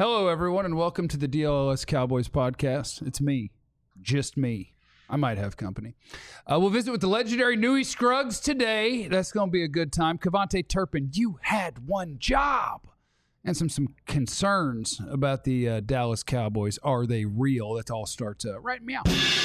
Hello, everyone, and welcome to the DLS Cowboys podcast. It's me, just me. I might have company. We'll visit with the legendary Newy Scruggs today. That's going to be a good time. KaVontae Turpin, you had one job. And some concerns about the Dallas Cowboys. Are they real? That all starts right meow.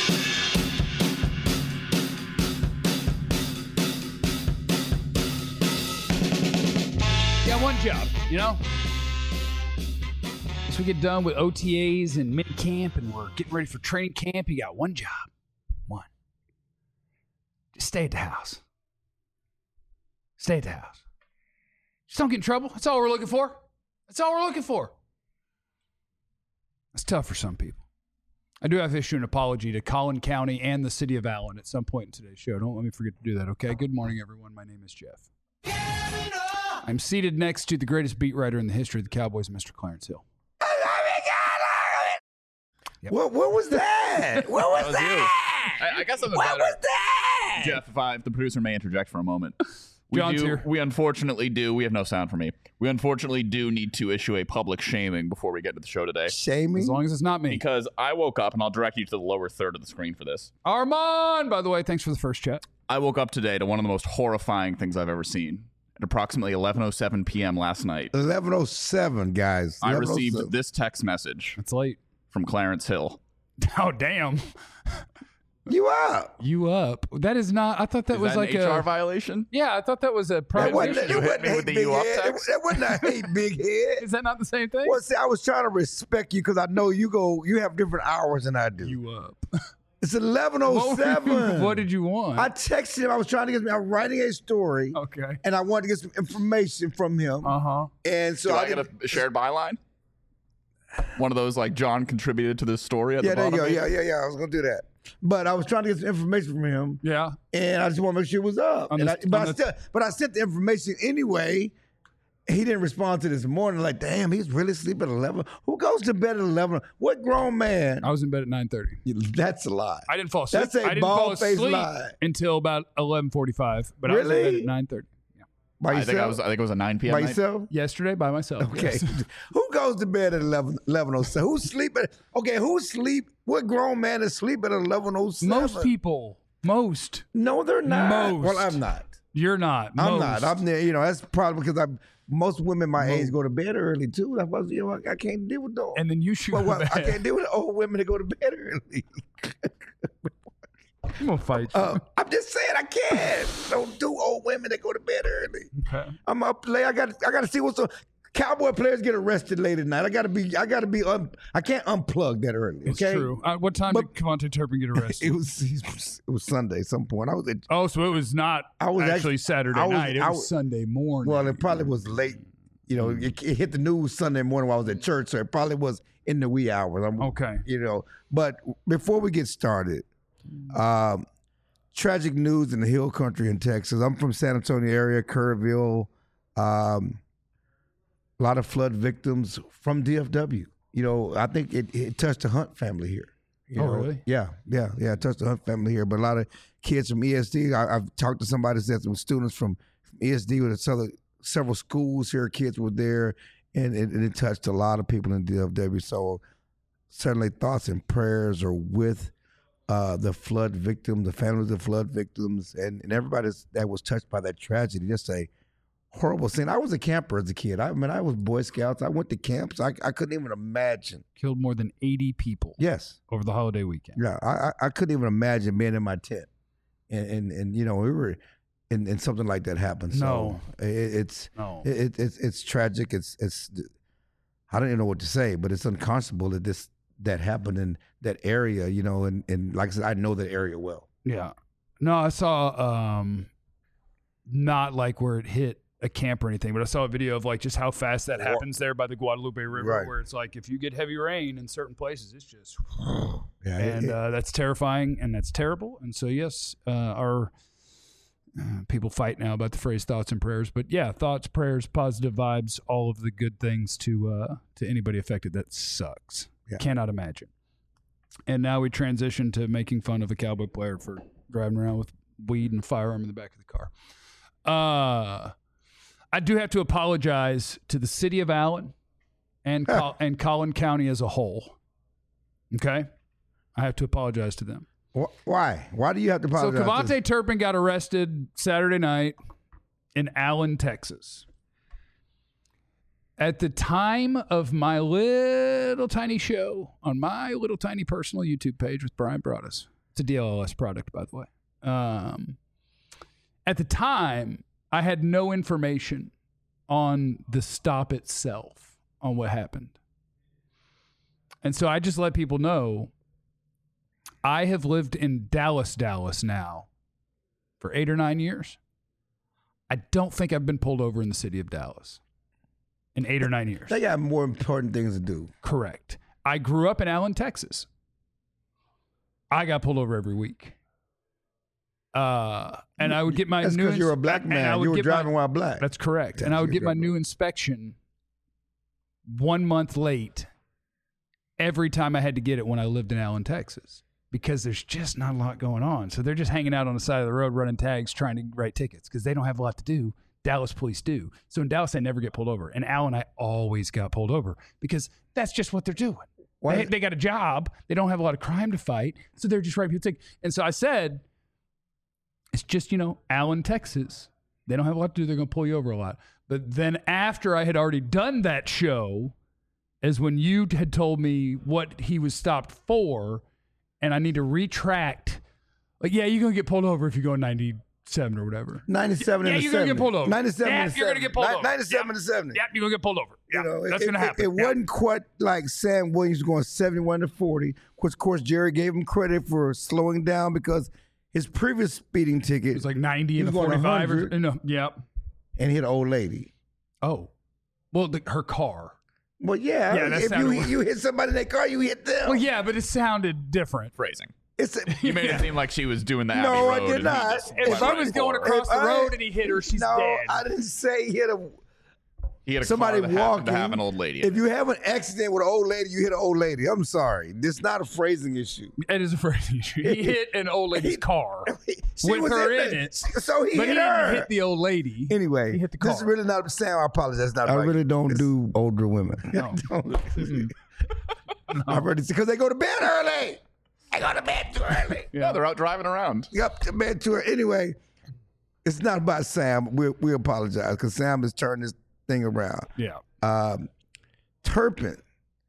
Yeah, one job, you know? As we get done with OTAs and mini camp and we're getting ready for training camp, you got one job. One. Just stay at the house. Stay at the house. Just don't get in trouble. That's all we're looking for. That's all we're looking for. That's tough for some people. I do have to issue an apology to Collin County and the city of Allen at some point in today's show. Don't let me forget to do that, okay? Good morning, everyone. My name is Jeff. I'm seated next to the greatest beat writer in the history of the Cowboys, Mr. Clarence Hill. Yep. What was that? What was that? I got something what better. Was that? Jeff, if the producer may interject for a moment. John's here. We unfortunately do. We have no sound for me. We unfortunately do need to issue a public shaming before we get to the show today. Shaming? As long as it's not me. Because I woke up, and I'll direct you to the lower third of the screen for this. Armand, by the way, thanks for the first chat. I woke up today to one of the most horrifying things I've ever seen. At approximately 11:07 p.m. last night, 11:07, guys. I received this text message. It's late. From Clarence Hill. Oh, damn. You up? You up? That is not. I thought that was that like an HR a violation. Yeah, I thought that was a private. You hit me with the you up text? That wasn't a hate big head. Is that not the same thing? Well, see, I was trying to respect you because I know you have different hours than I do. You up? It's 11:07. What did you want? I texted him. I was trying to get. I'm writing a story. Okay. And I wanted to get some information from him. And so Do I get a shared byline? One of those like John contributed to this story at the bottom. Yeah. I was gonna do that, but I was trying to get some information from him. Yeah, and I just want to make sure it was up. But I sent the information anyway. He didn't respond to this morning. Like, damn, he's really sleeping at 11. Who goes to bed at 11? What grown man? I was in bed at 9:30. That's a lie. I didn't fall asleep. That's a bald-faced lie. Until about 11:45. But really? I was in bed at 9:30. By yourself? I think it was a 9 p.m. By night. yourself? Yesterday by myself. Okay. Yes. Who goes to bed at 11:07? Who's sleeping? Okay, who's sleep? What grown man is sleeping at 11:07? Most people. Most. No, they're not. Most. Well, I'm not. You're not. I'm not. I'm there. You know, that's probably because most women my age go to bed early too. That's why I can't deal with those. And then you shoot. I can't deal with old women that go to bed early. I'm gonna fight you. I'm just saying I can't. Don't do old women that go to bed early. Okay. I'm up late. I got to see what's up. Cowboy players get arrested late at night. I can't unplug that early. Okay. It's true. What time did KaVontae Turpin get arrested? It was Sunday at some point. So it was not actually Saturday night. It was Sunday morning. Well, it probably was late. You know, it hit the news Sunday morning while I was at church, so it probably was in the wee hours. Okay. You know, but before we get started, tragic news in the Hill Country in Texas. I'm from San Antonio area, Kerrville. A lot of flood victims from DFW. You know, I think it touched the Hunt family here. You know? Really? Yeah. It touched the Hunt family here. But a lot of kids from ESD. I've talked to somebody that said some students from ESD with several schools here. Kids were there, and it touched a lot of people in DFW. So certainly thoughts and prayers are with the flood victims, the families of flood victims, and everybody that was touched by that tragedy. Just a horrible scene. I was a camper as a kid. I was Boy Scouts. I went to camps. I couldn't even imagine. Killed more than 80 people. Yes. Over the holiday weekend. Yeah, I couldn't even imagine being in my tent, and you know we were in something like that happened. So it's tragic. It's I don't even know what to say, but it's unconscionable that happened in that area. You know, and like I said, I know that area well. Yeah. No, I saw not like where it hit a camp or anything, but I saw a video of like just how fast that happens there by the Guadalupe River, where it's like if you get heavy rain in certain places, it's just that's terrifying and that's terrible. And so yes, our people fight now about the phrase thoughts and prayers, but yeah, thoughts, prayers, positive vibes, all of the good things to anybody affected. That sucks. Yeah. Cannot imagine. And now we transition to making fun of a Cowboy player for driving around with weed and firearm in the back of the car. I do have to apologize to the city of Allen and and Collin County as a whole. Okay? I have to apologize to them. Why? Why do you have to apologize? So Kevontae Turpin got arrested Saturday night in Allen, Texas. At the time of my little tiny show on my little tiny personal YouTube page with Brian Broaddus. It's a DLLS product, by the way. At the time, I had no information on the stop itself, on what happened. And so I just let people know I have lived in Dallas now for 8 or 9 years. I don't think I've been pulled over in the city of Dallas in 8 or 9 years. They got more important things to do. Correct. I grew up in Allen, Texas. I got pulled over every week. And I would get my That's because you're a black man. You were driving while black. That's correct. And I would get my new inspection 1 month late every time I had to get it when I lived in Allen, Texas, because there's just not a lot going on. So they're just hanging out on the side of the road running tags trying to write tickets because they don't have a lot to do. Dallas police do. So in Dallas, I never get pulled over. In Allen, I always got pulled over because that's just what they're doing. They got a job. They don't have a lot of crime to fight. So they're just writing people tickets. And so I said, it's just, Allen, Texas. They don't have a lot to do. They're going to pull you over a lot. But then after I had already done that show is when you had told me what he was stopped for, and I need to retract. Like, yeah, you're going to get pulled over if you go 97 or whatever. 97 and you're going to get pulled over. 97 yeah, and 70. You're going to get pulled over. 97 and 70. Yep, you're going to get pulled over. Yeah, that's going to happen. It wasn't quite like Sam Williams going 71 to 40, which, of course, Jerry gave him credit for slowing down because his previous speeding ticket it was like 90 and a 45. Yep. And hit an old lady. Oh. Well, her car. Well, yeah. If you hit somebody in that car, you hit them. Well, yeah, but it sounded different. Phrasing. You made it seem like she was doing the Abbey No, Road. I did not. If I was going across the road and he hit her, she's dead. No, I didn't say he hit a... He had somebody car that walking to have an old lady. If you have an accident with an old lady, you hit an old lady. I'm sorry. This is not a phrasing issue. It is a phrasing issue. He hit an old lady's car with her in it. So he but hit he her. Didn't hit the old lady. Anyway, he hit the car. This is really not Sam. I apologize. Not I really don't do older women. No. I've heard it because they go to bed early. They go to bed too early. Yeah, they're out driving around. Yep, to bed too early. Anyway, it's not about Sam. We apologize because Sam has turned this thing around. Yeah. Turpin,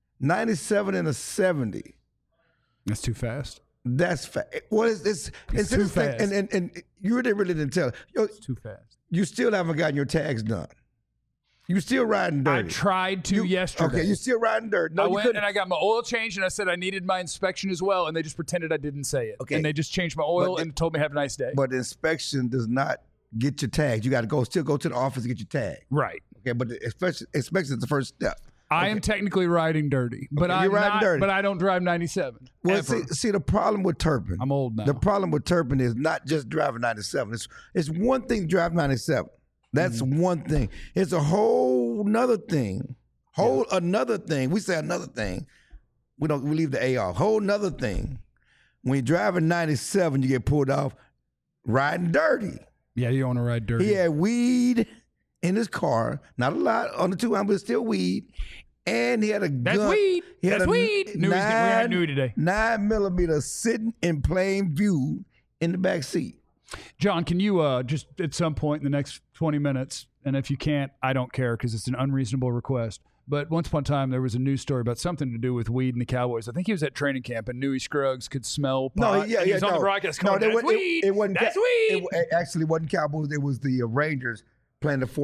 97 and a 70. That's too fast. That's fast. What is this? It's too fast. And you really didn't tell. It's too fast. You still haven't gotten your tags done. You still riding dirty. I tried to yesterday. Okay, you still riding dirty. No, I you went couldn't. and I got my oil changed, and I said I needed my inspection as well, and they just pretended I didn't say it. Okay. And they just changed my oil and told me have a nice day. But the inspection does not get your tags. You got to still go to the office and get your tag. Right. Okay, but the inspection is the first step. I am technically riding dirty, but Okay, you're riding dirty. But I don't drive 97. Well, ever. see, the problem with Turpin. I'm old now. The problem with Turpin is not just driving 97. It's one thing to drive 97. That's one thing. It's a whole nother thing. Another thing. We say another thing. We leave the A off. Whole nother thing. When you're driving 97, you get pulled off riding dirty. Yeah, you don't want to ride dirty. He had weed in his car. Not a lot on the 200, but still weed. And he had a gun. That's weed. He had That's weed. We had new today. 9mm sitting in plain view in the back seat. John, can you just at some point in the next 20 minutes, and if you can't, I don't care because it's an unreasonable request. But once upon a time, there was a news story about something to do with weed and the Cowboys. I think he was at training camp, and Newey Scruggs could smell pot. He was on the broadcast going, that's weed. It wasn't that's weed. It actually wasn't Cowboys. It was the Rangers playing the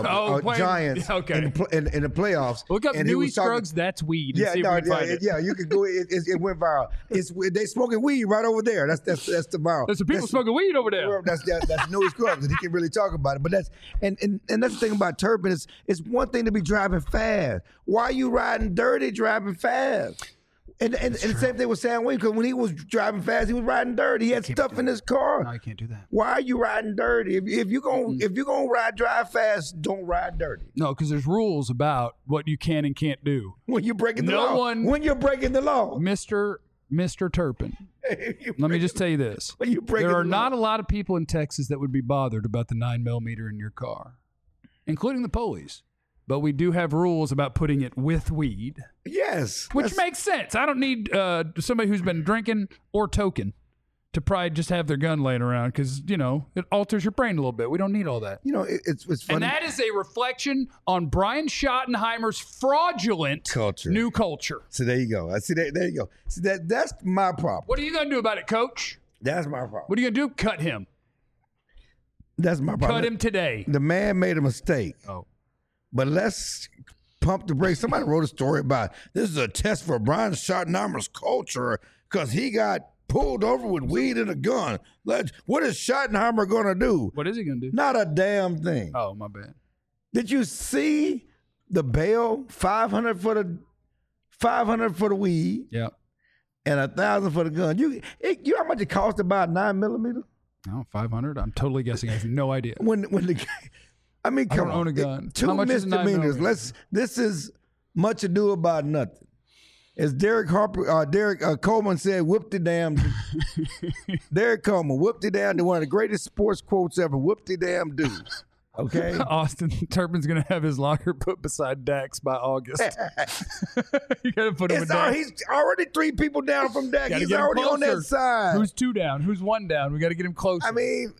Giants in the playoffs. Look up Newey Scruggs, that's weed. Yeah, you could go. It went viral. They smoking weed right over there. That's the viral. There's some people smoking weed over there. That's Newey Scruggs, and he can really talk about it. But that's the thing about Turpin is it's one thing to be driving fast. Why are you riding dirty driving fast? And the same thing with Sam Williams, because when he was driving fast, he was riding dirty. He had stuff in his car. No, you can't do that. Why are you riding dirty? If you're gonna drive fast, don't ride dirty. No, because there's rules about what you can and can't do. When you're breaking the law. When you're breaking the law. Mr. Turpin. Let me just tell you this. There are not a lot of people in Texas that would be bothered about the 9mm in your car, including the police. but we do have rules about putting it with weed, Yes. which makes sense. I don't need somebody who's been drinking or toking to probably just have their gun laying around because, you know, it alters your brain a little bit. We don't need all that. You know, it's funny. And that is a reflection on Brian Schottenheimer's fraudulent Culture. new culture. So there you go. I see that. There you go. See that's my problem. What are you going to do about it, Coach? That's my problem. What are you going to do? Cut him. That's my problem. Cut him today. The man made a mistake. Oh. But let's pump the brakes. Somebody wrote a story about this is a test for Brian Schottenheimer's culture because he got pulled over with weed and a gun. What is Schottenheimer going to do? What is he going to do? Not a damn thing. Oh, my bad. Did you see the bail? $500 for the weed Yeah. and $1,000 for the gun. You know how much it cost to buy a 9mm? Oh, 500? I'm totally guessing. I have no idea. When the I mean, come don't on. own a gun. Two How much is a 9mm? misdemeanors. This is much ado about nothing. As Derek Coleman said, whoop-de-damn. Derek Coleman, whoop-de-damn, one of the greatest sports quotes ever. Whoop-de-damn do. Okay? Austin Turpin's going to have his locker put beside Dax by August. You got to put him with Dax. He's already 3 people down from Dak. Gotta He's get him already on that closer. side. Who's 2 down? Who's 1 down? We got to get him closer. I mean,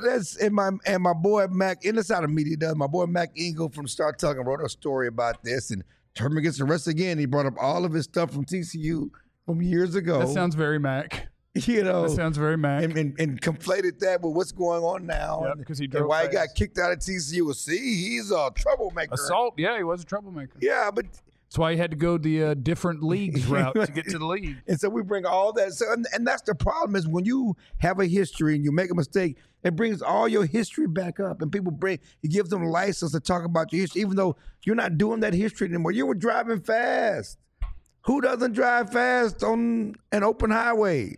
my boy Mac, and this how the media does. My boy Mac Engel from Start Talking wrote a story about this, and Turpin gets arrested again. He brought up all of his stuff from TCU from years ago. that sounds very Mac. You know, That sounds very Mac. and conflated that with what's going on now. Yep, and, 'cause he and drove why he fast. got kicked out of TCU. See, he's a troublemaker. Assault. Yeah, he was a troublemaker. Yeah, but That's why he had to go the different leagues route to get to the league. and so we bring all that. So and that's the problem is when you have a history and you make a mistake, it brings all your history back up, and you give them license to talk about your history, even though you're not doing that history anymore. You were driving fast. Who doesn't drive fast on an open highway?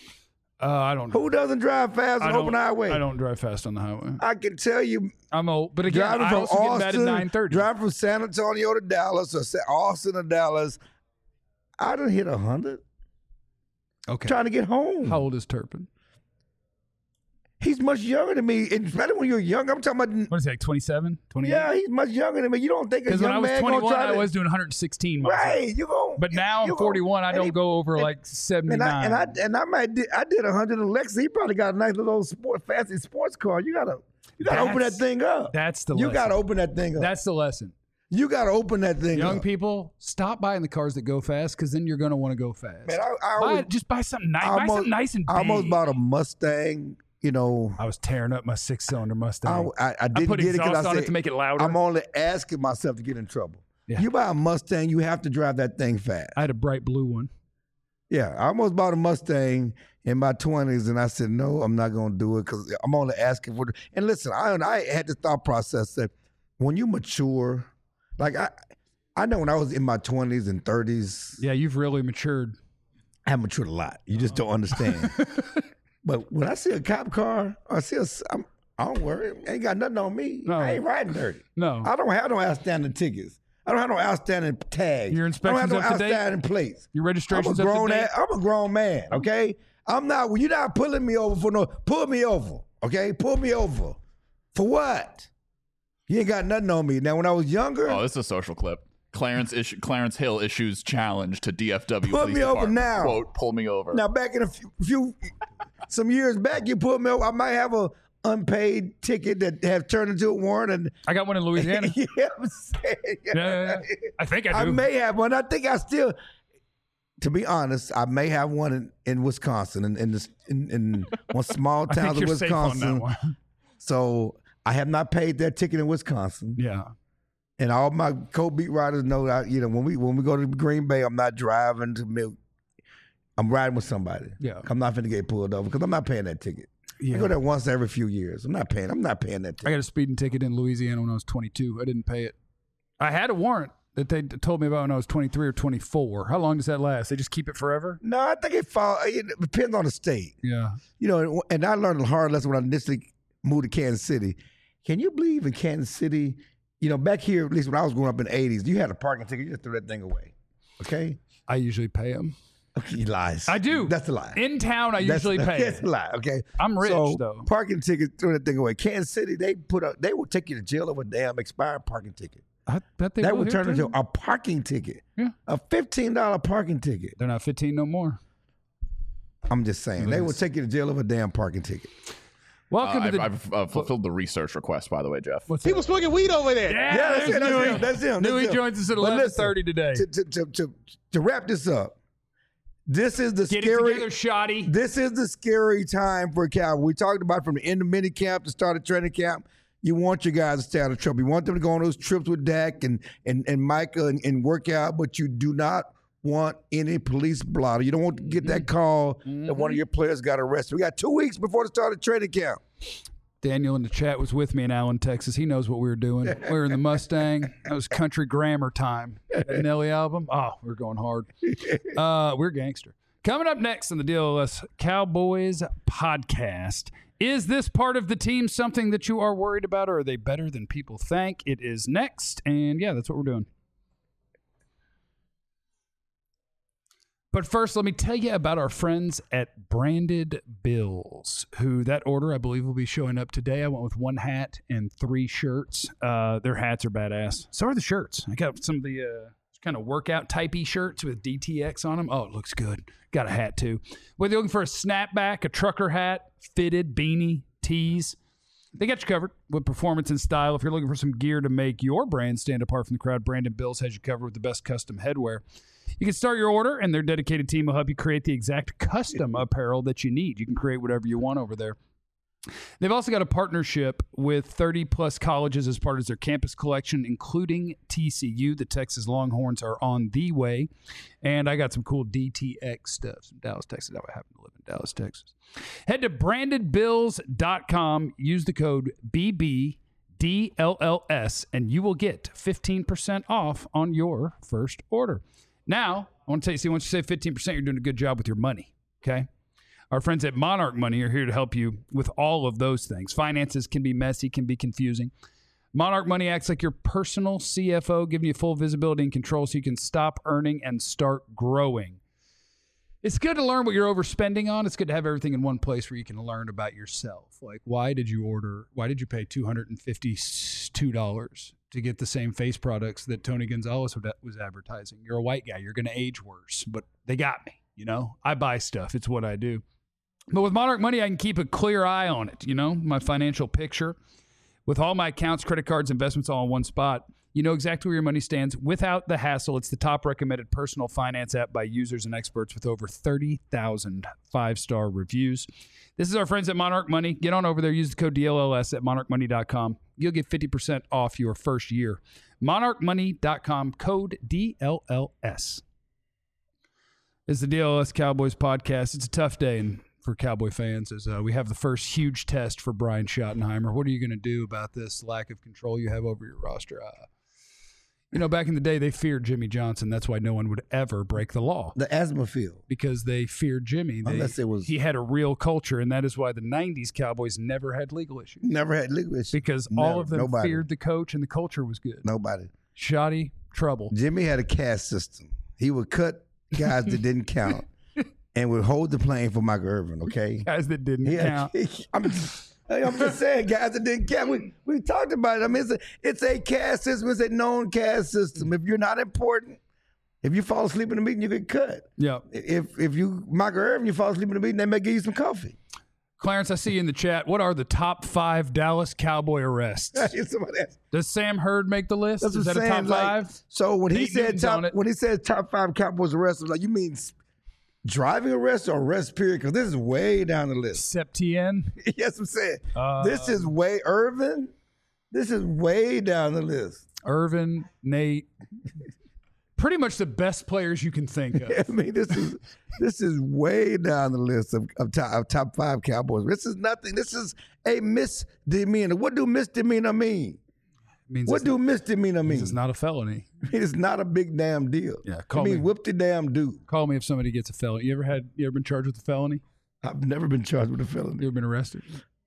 I don't. Who doesn't drive fast on an open highway? I don't drive fast on the highway. I can tell you, I'm old, but again, driving I from also get mad at 9:30. driving from San Antonio to Dallas or Austin to Dallas, I done hit 100 Okay. trying to get home. How old is Turpin? He's much younger than me. And especially when you're young, I'm talking about. What is he, like 27, 28? Yeah, he's much younger than me. You don't think a Because when I young was man 21, gonna try I to, was doing 116 miles. right? You go. But now I'm 41. I don't go over like 79. And I did 100 in Lexus. He probably got a nice little fancy sports car. You gotta open that thing up. That's the You lesson. gotta open that thing up. That's the lesson. You gotta open that thing up. Young people, stop buying the cars that go fast because then you're going to want to go fast. Man, I Just buy something nice. Buy something nice and big. I almost bought a Mustang. You know, I was tearing up my 6-cylinder Mustang. I didn't put get it exhaust because I on said it to make it louder. I'm only asking myself to get in trouble. Yeah. You buy a Mustang, you have to drive that thing fast. I had a bright blue one. Yeah, I almost bought a Mustang in my 20s, and I said, no, I'm not going to do it because I'm only asking for it. And listen, I had this thought process that when you mature, like I know when I was in my 20s and 30s, Yeah, you've really matured. I have matured a lot. You just don't understand. But when I see a cop car, I don't worry. Ain't got nothing on me. No. I ain't riding dirty. No. I don't have no outstanding tickets. I don't have no outstanding tags. Your inspection's I don't have up no to date? outstanding plates. Your registration's I'm up to date? I'm a grown man, okay? You're not pulling me over pull me over, okay? Pull me over. For what? You ain't got nothing on me. Now, when I was younger, Oh, this is a social clip. Clarence Hill issues challenge to DFW Pull Police me over Department. now. Quote, pull me over. now back in some years back, you pulled me over. I might have a unpaid ticket that have turned into a warrant. And I got one in Louisiana. you know what I'm saying? Yeah. I think I I do. may have one. I think I still, to be honest, I may have one in Wisconsin, in one small I town think of you're safe on Wisconsin. that one. So I have not paid that ticket in Wisconsin. Yeah. And all my co-beat riders know that, when we go to Green Bay, I'm not driving to Milk. I'm riding with somebody. Yeah. I'm not finna get pulled over because I'm not paying that ticket. Yeah. I go there once every few years. I'm not paying that I ticket. got a speeding ticket in Louisiana when I was 22. I didn't pay it. I had a warrant that they told me about when I was 23 or 24. How long does that last? They just keep it forever? No, I think it depends on the state. Yeah. And I learned a hard lesson when I initially moved to Kansas City. Can you believe in Kansas City, back here, at least when I was growing up in the 80s, you had a parking ticket, you just threw that thing away. Okay? I usually pay them. Okay, he lies. I do. That's a lie. In town, I usually pay That's it. a lie, okay? I'm rich, So, though. parking ticket, throw that thing away. Kansas City, they will take you to jail over a damn expired parking ticket. I bet they That will would here, turn into too. a parking ticket. Yeah. A $15 parking ticket. They're not 15 no more. I'm just saying. They will take you to jail over a damn parking ticket. Welcome to the. I've fulfilled the research request, by the way, Jeff. What's He was smoking weed over there. Yeah, That's him. Newey joins us at But listen, 11:30 today. To wrap this up, this is the Get scary. it together, shoddy. This is the scary time for Cal. We talked about from the end of mini camp to start of training camp. You want your guys to stay out of trouble. You want them to go on those trips with Dak and Micah and work out, but you do not want any police blotter. You don't want to get that call that one of your players got arrested. We got 2 weeks before the start of training camp. Daniel in the chat was with me in Allen, Texas. He knows what we were doing. We were in the Mustang. That was country grammar time. That Nelly album. Oh, we were going hard. We're gangster. Coming up next on the DLS Cowboys podcast. Is this part of the team something that you are worried about, or are they better than people think? It is next, and yeah, that's what we're doing. But first, let me tell you about our friends at Branded Bills, who that order, I believe, will be showing up today. I went with 1 hat and 3 shirts. Their hats are badass. So are the shirts. I got some of the kind of workout typey shirts with DTX on them. Oh, it looks good. Got a hat, too. Whether you're looking for a snapback, a trucker hat, fitted, beanie, tees, they got you covered with performance and style. If you're looking for some gear to make your brand stand apart from the crowd, Branded Bills has you covered with the best custom headwear. You can start your order, and their dedicated team will help you create the exact custom apparel that you need. You can create whatever you want over there. They've also got a partnership with 30-plus colleges as part of their campus collection, including TCU. The Texas Longhorns are on the way. And I got some cool DTX stuff from Dallas, Texas. I happen to live in Dallas, Texas. Head to brandedbills.com. Use the code BBDLLS, and you will get 15% off on your first order. Now, I want to tell you, see, once you save 15%, you're doing a good job with your money, okay? Our friends at Monarch Money are here to help you with all of those things. Finances can be messy, can be confusing. Monarch Money acts like your personal CFO, giving you full visibility and control so you can stop earning and start growing. It's good to learn what you're overspending on. It's good to have everything in one place where you can learn about yourself. Like, why did you pay $252 to get the same face products that Tony Gonzalez was advertising? You're a white guy. You're going to age worse, but they got me. You know, I buy stuff. It's what I do. But with Monarch Money, I can keep a clear eye on it, you know, my financial picture. With all my accounts, credit cards, investments all in one spot, you know exactly where your money stands without the hassle. It's the top recommended personal finance app by users and experts with over 30,000 5-star reviews. This is our friends at Monarch Money. Get on over there. Use the code DLLS at monarchmoney.com. You'll get 50% off your first year. monarchmoney.com, code DLLS. It's the DLS Cowboys podcast. It's a tough day for Cowboy fans as we have the first huge test for Brian Schottenheimer. What are you going to do about this lack of control you have over your roster? You know, back in the day, they feared Jimmy Johnson. That's why no one would ever break the law. The asthma field. Because they feared Jimmy. He had a real culture, and that is why the 90s Cowboys never had legal issues. Never had legal issues. Because all of them feared the coach, and the culture was good. Nobody. Shoddy trouble. Jimmy had a caste system. He would cut guys that didn't count and would hold the plane for Michael Irvin, okay? Guys that didn't count. I'm just saying, guys that didn't count. We talked about it. I mean, it's a caste system. It's a known caste system. If you're not important, if you fall asleep in the meeting, you get cut. Yeah. If you, Michael Irvin, you fall asleep in the meeting, they may give you some coffee. Clarence, I see you in the chat. What are the top 5 Dallas Cowboy arrests? Does Sam Hurd make the list? Is that a top 5? So when he said top 5 Cowboys arrests, like, you mean driving arrests or arrest period? Because this is way down the list. Septien? Yes, I'm saying. This is way Irvin. This is way down the list. Irvin, Nate. Pretty much the best players you can think of. I mean, this is way down the list of top 5 Cowboys. This is nothing. This is a misdemeanor. What do misdemeanor mean? What do misdemeanor mean? It's not a felony. It's not a big damn deal. Yeah, whoop the damn dude. Call me if somebody gets a felony. You ever been charged with a felony? I've never been charged with a felony. You ever been arrested?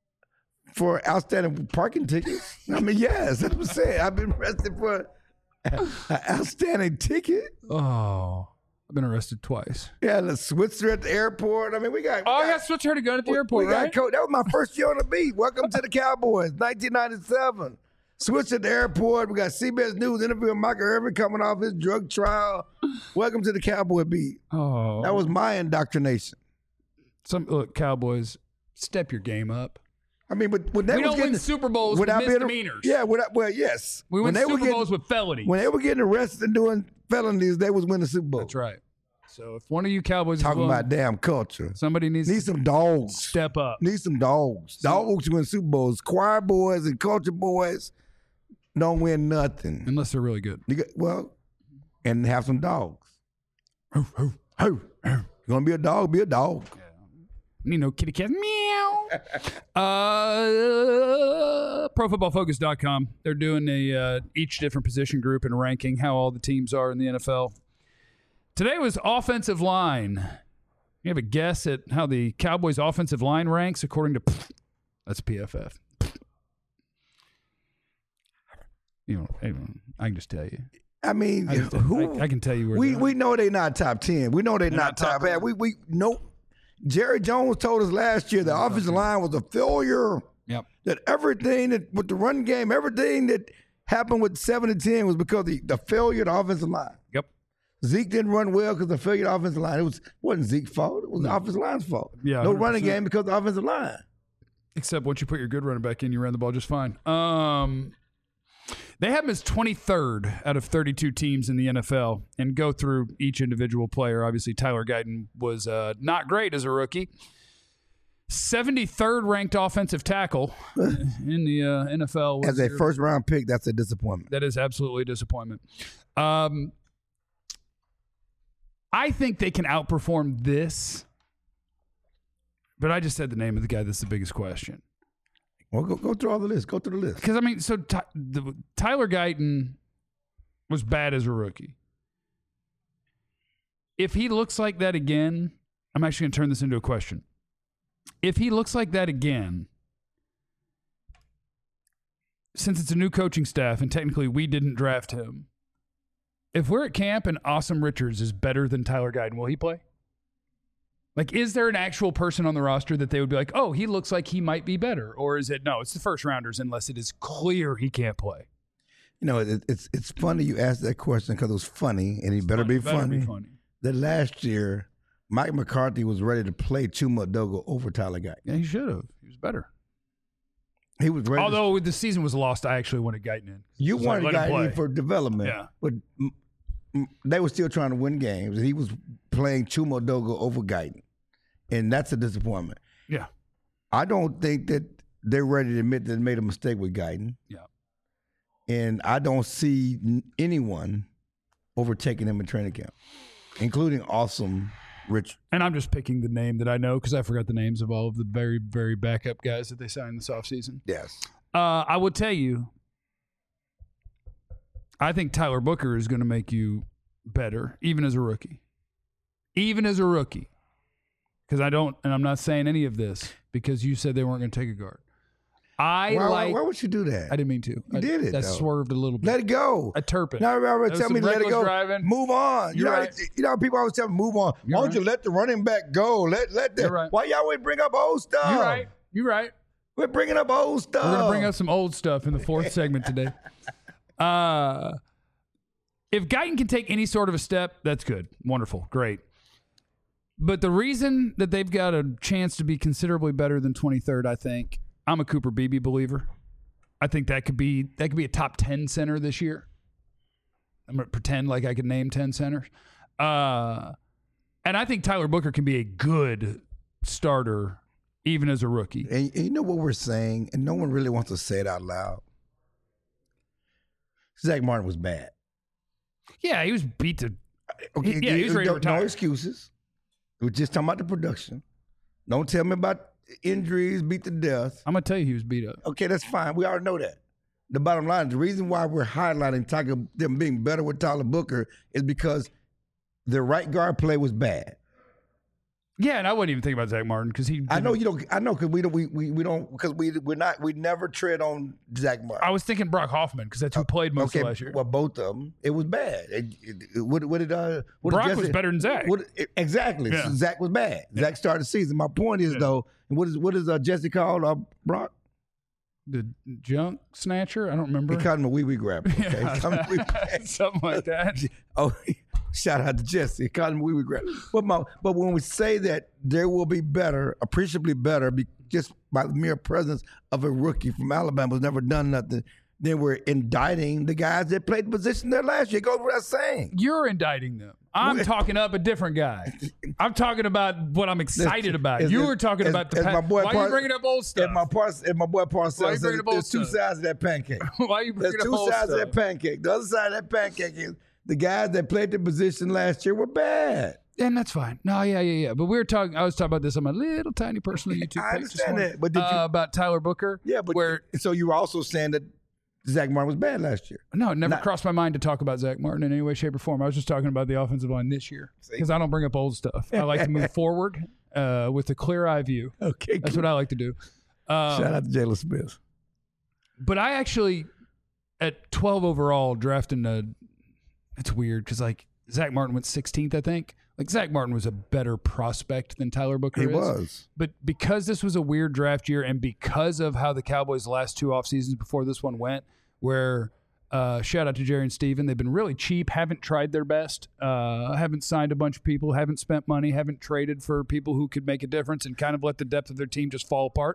For outstanding parking tickets? I mean, yes. That's what I'm saying. I've been arrested for an outstanding ticket. Oh, I've been arrested twice. Yeah, the Switzer at the airport. I mean, I got Switzer to go at the airport, right? That was my first year on the beat. Welcome to the Cowboys, 1997. Switch at the airport. We got CBS News interviewing Michael Irvin coming off his drug trial. Welcome to the Cowboy Beat. Oh, That was my indoctrination. look, Cowboys, step your game up. I mean, but when they We was don't getting win Super Bowls with misdemeanors. Yes. We win Super Bowls with felonies. When they were getting arrested and doing felonies, they was winning Super Bowl. That's right. So if one of you Cowboys is Talking willing, about damn culture. somebody needs Need to some dogs. step up. Need some dogs. Dogs win Super Bowls. Choir boys and culture boys don't win nothing. Unless they're really good. And have some dogs. You gonna be a dog? Be a dog. You know, kitty cat. Meow. ProFootballFocus.com. They're doing each different position group and ranking how all the teams are in the NFL. Today was offensive line. You have a guess at how the Cowboys' offensive line ranks according to that's PFF. You know, I can just tell you. I mean, I can tell you where we know they're not top 10. We know they're not top 10. We know. Jerry Jones told us last year the offensive line was a failure. Yep. That everything that with the run game, everything that happened with 7-10 was because of the failure of the offensive line. Yep. Zeke didn't run well because of the failure of the offensive line. It wasn't Zeke's fault. It was the offensive line's fault. Yeah, no 100%. running game because of the offensive line. Except once you put your good running back in, you ran the ball just fine. They have him as 23rd out of 32 teams in the NFL and go through each individual player. Obviously, Tyler Guyton was not great as a rookie. 73rd ranked offensive tackle in the NFL. As a first-round pick, that's a disappointment. That is absolutely a disappointment. I think they can outperform this, but I just said the name of the guy that's the biggest question. Well, go through all the list. Go through the list. Because, I mean, so Tyler Guyton was bad as a rookie. If he looks like that again, I'm actually going to turn this into a question. If he looks like that again, since it's a new coaching staff and technically we didn't draft him, if we're at camp and Awesome Richards is better than Tyler Guyton, will he play? Like, is there an actual person on the roster that they would be like, oh, he looks like he might be better? Or is it, no, it's the first rounders unless it is clear he can't play? You know, it's funny you asked that question because it was funny, and he better be funny. That last year, Mike McCarthy was ready to play Chuma Dogo over Tyler Guyton. Yeah, he should have. He was better. He was ready. Although the season was lost, I actually wanted Guyton in. You wanted Guyton in for development. Yeah. But they were still trying to win games, and he was playing Chuma Dogo over Guyton. And that's a disappointment. Yeah. I don't think that they're ready to admit that they made a mistake with Guyton. Yeah. And I don't see anyone overtaking him in training camp, including Awesome Rich. And I'm just picking the name that I know because I forgot the names of all of the very, very backup guys that they signed this offseason. Yes. I will tell you, I think Tyler Booker is going to make you better, even as a rookie. Even as a rookie. Because I'm not saying any of this because you said they weren't going to take a guard. Why would you do that? I didn't mean to. You did it. That though. Swerved a little bit. Let it go. A Turpin. Now everybody tell me let it go. Driving. Move on. You're right. You know people always tell me move on. Why don't you let the running back go? Let that. You're right. Why y'all always bring up old stuff? You're right. We're bringing up old stuff. We're going to bring up some old stuff in the fourth segment today. If Guyton can take any sort of a step, that's good. Wonderful. Great. But the reason that they've got a chance to be considerably better than 23rd, I think, I'm a Cooper Beebe believer. I think that could be a top 10 center this year. I'm going to pretend like I can name 10 centers. And I think Tyler Booker can be a good starter even as a rookie. And you know what we're saying, and no one really wants to say it out loud. Zach Martin was bad. Yeah, he was beat to. Okay, he was ready to retire. No excuses. We're just talking about the production. Don't tell me about injuries, beat to death. I'm going to tell you he was beat up. Okay, that's fine. We already know that. The bottom line, the reason why we're highlighting talking them being better with Tyler Booker is because the right guard play was bad. Yeah, and I wouldn't even think about Zach Martin because he. I know you don't. I know because we don't because we never tread on Zach Martin. I was thinking Brock Hoffman because that's who played most of last year. Well, both of them, it was bad. Brock was better than Zach. Exactly. Yeah. So Zach was bad. Yeah. Zach started the season. My point is though, what is Jesse called? Brock? the junk snatcher. I don't remember. He called him a wee grabber. Okay? Yeah. Something like that. Oh, shout out to Jesse. He called him a wee grabber. But when we say that there will be better, appreciably better, just by the mere presence of a rookie from Alabama who's never done nothing, then we're indicting the guys that played the position there last year. It goes without saying. You're indicting them. I'm talking up a different guy. I'm talking about what I'm excited about. You were talking about the my boy why are you bringing up old stuff? And my boy Parcells said there's two sides of that pancake. Why are you bringing There's up two old sides stuff? of that pancake. The other side of that pancake is the guys that played the position last year were bad. And that's fine. No, yeah. But I was talking about this on my little tiny personal YouTube I page this understand morning, that, but did you, about Tyler Booker. Yeah, but so you were also saying that Zach Martin was bad last year. No, it never crossed my mind to talk about Zach Martin in any way, shape, or form. I was just talking about the offensive line this year because I don't bring up old stuff. I like to move forward with a clear eye view. Okay, that's what I like to do. Shout out to Jalen Smith. But I actually, at 12 overall, drafting it's weird because like Zach Martin went 16th, I think. Like Zach Martin was a better prospect than Tyler Booker is. He was. But because this was a weird draft year and because of how the Cowboys' last two off seasons before this one went, where shout out to Jerry and Steven, they've been really cheap, haven't tried their best, haven't signed a bunch of people, haven't spent money, haven't traded for people who could make a difference and kind of let the depth of their team just fall apart.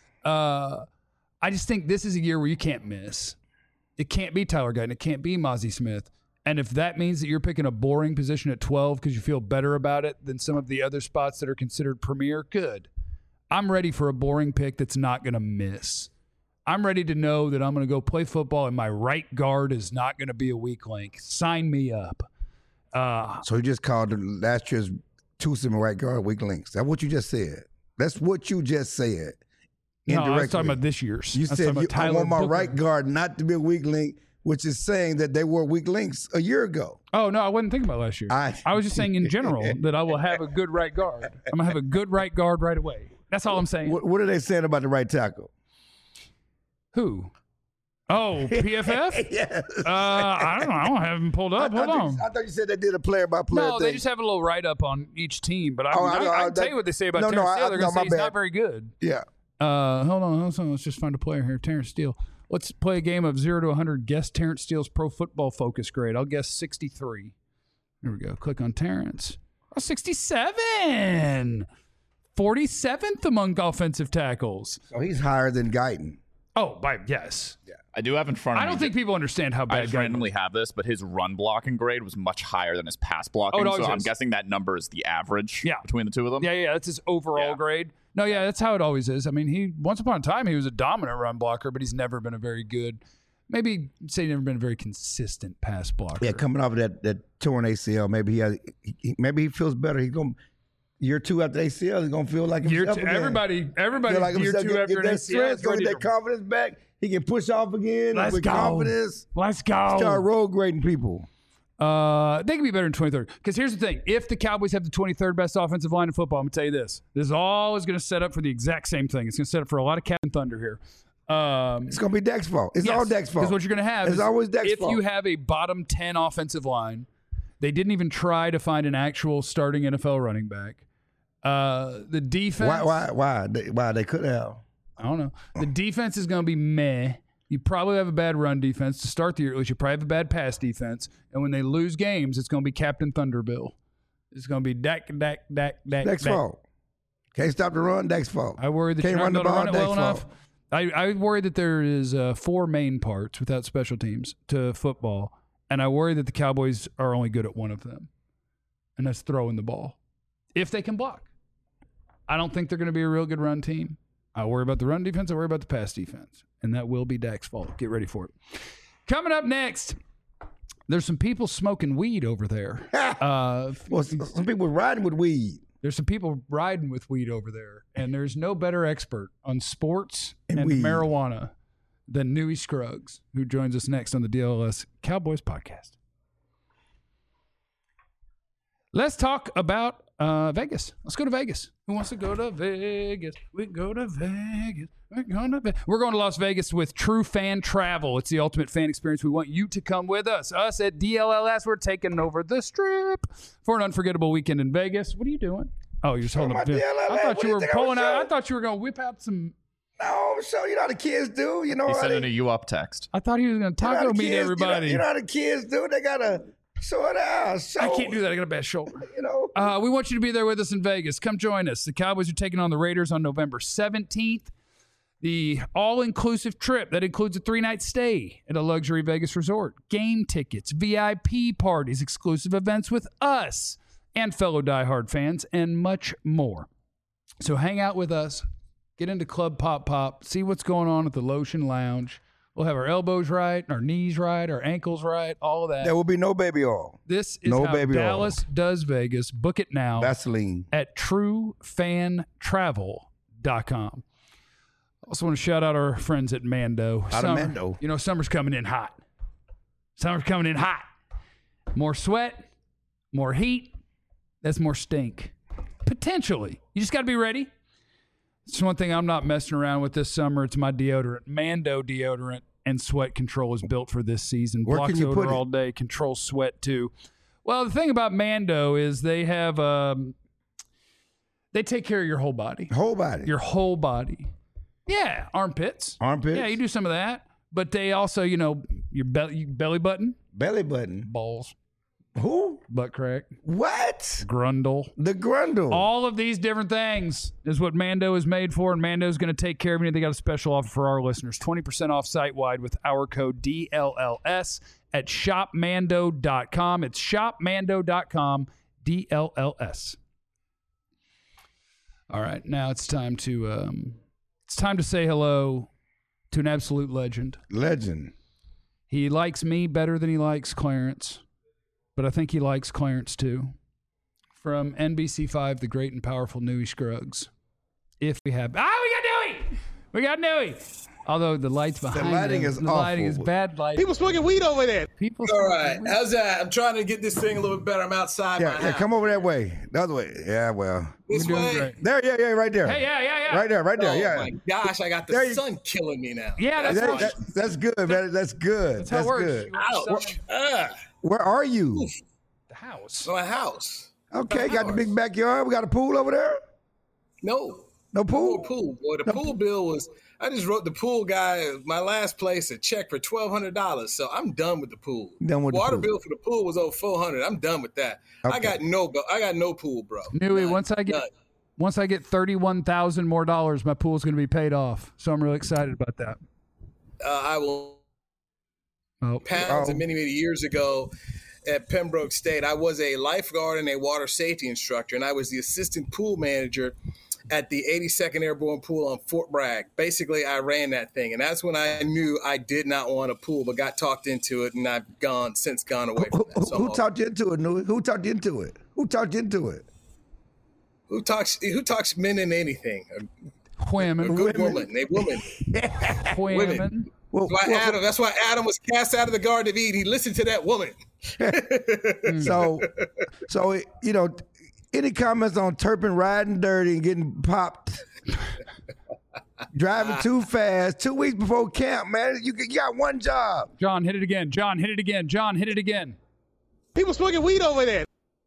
I just think this is a year where you can't miss. It can't be Tyler Guyton. It can't be Mozzie Smith. And if that means that you're picking a boring position at 12 because you feel better about it than some of the other spots that are considered premier, good. I'm ready for a boring pick that's not going to miss. I'm ready to know that I'm going to go play football and my right guard is not going to be a weak link. Sign me up. So you just called last year's twosome right guard weak links. That's what you just said. That's what you just said. No, I was talking about this year's. You said I want my right guard not to be a weak link, which is saying that they were weak links a year ago. Oh, no, I wasn't thinking about last year. I was just saying in general that I will have a good right guard. I'm going to have a good right guard right away. That's all I'm saying. What are they saying about the right tackle? Who? Oh, PFF? Yes. I don't know. I don't have them pulled up. Hold on. I thought you said they did a player-by-player thing. No, they just have a little write-up on each team. But I can tell you what they say about Terrence Steele. They're going to say he's not very good. Yeah. Hold on. Let's just find a player here. Terrence Steele. Let's play a game of 0 to 100. Guess Terrence Steele's Pro Football Focus grade. I'll guess 63. There we go. Click on Terrence. Oh, 67. 47th among offensive tackles. So he's higher than Guyton. Oh, yes. Yeah. I do have in front of me. I don't think people understand how bad I just randomly have this, but his run blocking grade was much higher than his pass blocking. So I'm guessing that number is the average between the two of them. Yeah. That's his overall grade. No, that's how it always is. I mean, once upon a time, he was a dominant run blocker, but he's never been a very good, maybe say never been a very consistent pass blocker. Yeah, coming off of that torn ACL, maybe he feels better. He's going year 2 after ACL, he's going to feel like himself again. Everybody like year 2 after an ACL. Strength, get that confidence back. He can push off again with confidence. Let's go. Start road grading people. They can be better in 23rd. Because here's the thing. If the Cowboys have the 23rd best offensive line in football, I'm going to tell you this. This is always going to set up for the exact same thing. It's going to set up for a lot of Captain Thunder here. It's going to be Dak's fault. It's all Dak's fault. Because what you're going to have is always Dak's fault. If you have a bottom 10 offensive line, they didn't even try to find an actual starting NFL running back. The defense. Why? They could have. I don't know. The defense is going to be meh. You probably have a bad run defense to start the year. At least you probably have a bad pass defense. And when they lose games, it's going to be Captain Thunderbill. It's going to be Dak. Dak's fault. Can't stop the run. Dak's fault. I worry that you're not going to run it well enough. I worry that there is 4 main parts without special teams to football. And I worry that the Cowboys are only good at one of them. And that's throwing the ball. If they can block. I don't think they're going to be a real good run team. I worry about the run defense. I worry about the pass defense. And that will be Dak's fault. Get ready for it. Coming up next, there's some people smoking weed over there. Some people riding with weed. There's some people riding with weed over there. And there's no better expert on sports and marijuana than Newey Scruggs, who joins us next on the DLS Cowboys podcast. Let's talk about Vegas. Let's go to Vegas. Who wants to go to Vegas? We go to Vegas. We're going to Las Vegas with True Fan Travel. It's the ultimate fan experience. We want you to come with us. Us at DLLS, we're taking over the Strip for an unforgettable weekend in Vegas. What are you doing? Oh, you're just holding up. I thought you were pulling out. I thought you were going to whip out some. No, so you know how the kids do. You know, he's sending a you up text. I thought he was going to taco meet everybody. You know how the kids do. They gotta sort out. So, I can't do that. I got a bad shoulder. You know, we want you to be there with us in Vegas. Come join us. The Cowboys are taking on the Raiders on November 17th. The all-inclusive trip that includes a 3-night stay at a luxury Vegas resort, game tickets, VIP parties, exclusive events with us and fellow diehard fans, and much more. So hang out with us, get into Club Pop Pop, see what's going on at the Lotion Lounge. We'll have our elbows right, our knees right, our ankles right, all of that. There will be no baby oil. This is how Dallas does Vegas. Book it now. Vaseline. At truefantravel.com. I also want to shout out our friends at Mando. Mando. You know, summer's coming in hot. Summer's coming in hot. More sweat, more heat. That's more stink. Potentially. You just got to be ready. It's one thing I'm not messing around with this summer. It's my deodorant. Mando deodorant and sweat control is built for this season. Where Blocks can you odor put it? all day, controls sweat too. Well, the thing about Mando is they have they take care of your whole body. Whole body. Your whole body. Yeah, armpits. Armpits. Yeah, you do some of that. But they also, you know, your belly button. Belly button. Balls. Who? Butt crack. What? Grundle. The grundle. All of these different things is what Mando is made for, and Mando is going to take care of you. They got a special offer for our listeners. 20% off site-wide with our code DLLS at shopmando.com. It's shopmando.com, DLLS. All right, now it's time to say hello to an absolute legend. Legend. He likes me better than he likes Clarence, but I think he likes Clarence too. From NBC5, the great and powerful Newey Scruggs. If we have... we got Newey! We got Newey! Although the lights behind the lighting is the awful. lighting is bad lighting. People smoking weed over there. All right. How's that? I'm trying to get this thing a little bit better. I'm outside my house. Come over that way. The other way. Yeah, well. This way? Great. There, right there. Hey, yeah. Right there, Oh, yeah. my gosh. I got the sun killing me now. Yeah, That's good, man. That's good. That's how it works. Good. Ouch. Where are you? The house. My house. Okay, got the big backyard. We got a pool over there? No pool? pool. Boy, the pool bill was... I just wrote the pool guy, my last place, a check for $1,200. So I'm done with the pool. Water bill for the pool was over $400. I'm done with that. Okay. I got no pool, bro. Newey, once I get $31,000 more, my pool's going to be paid off. So I'm really excited about that. I will. Pounds and many years ago at Pembroke State, I was a lifeguard and a water safety instructor, and I was the assistant pool manager at the 82nd Airborne Pool on Fort Bragg. Basically, I ran that thing, and that's when I knew I did not want a pool, but got talked into it, and I've since gone away from that. So who talked you into it, Newey? Who talked you into it? Who talks men in anything? Women. A good woman. A woman. Women. That's why Adam was cast out of the Garden of Eden. He listened to that woman. So you know, any comments on Turpin riding dirty and getting popped, driving too fast, 2 weeks before camp, man? You got one job. John, hit it again. John, hit it again. John, hit it again. People smoking weed over there.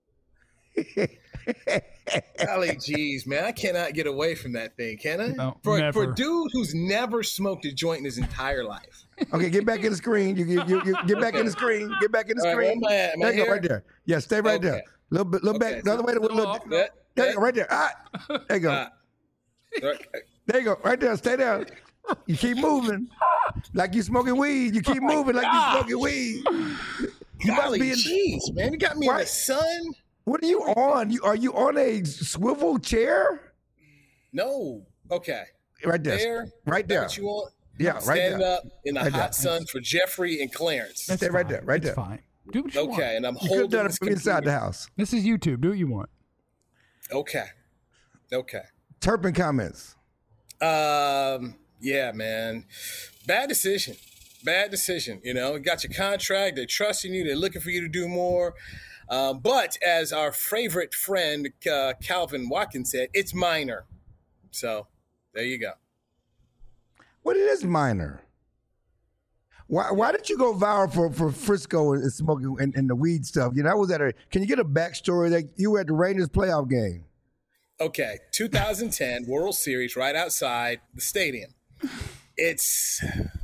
Golly geez, man. I cannot get away from that thing, can I? No, for never. a dude who's never smoked a joint in his entire life. Okay, get back in the screen. You get back in the screen. Get back in the screen. Right, there you go, right there. Yeah, stay right there. Little back, the other way. There you go, right there. There you go. There you go, right there. Stay there. You keep moving like you smoking weed. You keep moving like you smoking weed. You must be jeez, man. You got me in the sun. What are you on? Are you on a swivel chair? No. Okay. Right there. Right there. What you want? Yeah, right Standing there. up in the hot sun for Jeffrey and Clarence. Stay right there. Right there. It's fine. Do what you want. Okay, and I'm You could holding have done this it from inside the house. This is YouTube. Do what you want. Okay. Turpin comments. Yeah, man. Bad decision. You know, you got your contract. They're trusting you. They're looking for you to do more. But as our favorite friend, Calvin Watkins said, it's minor. So there you go. What it is minor? Why did you go viral for Frisco and smoking and the weed stuff? You know, I was can you get a backstory that you were at the Rangers playoff game? Okay, 2010 World Series right outside the stadium. It's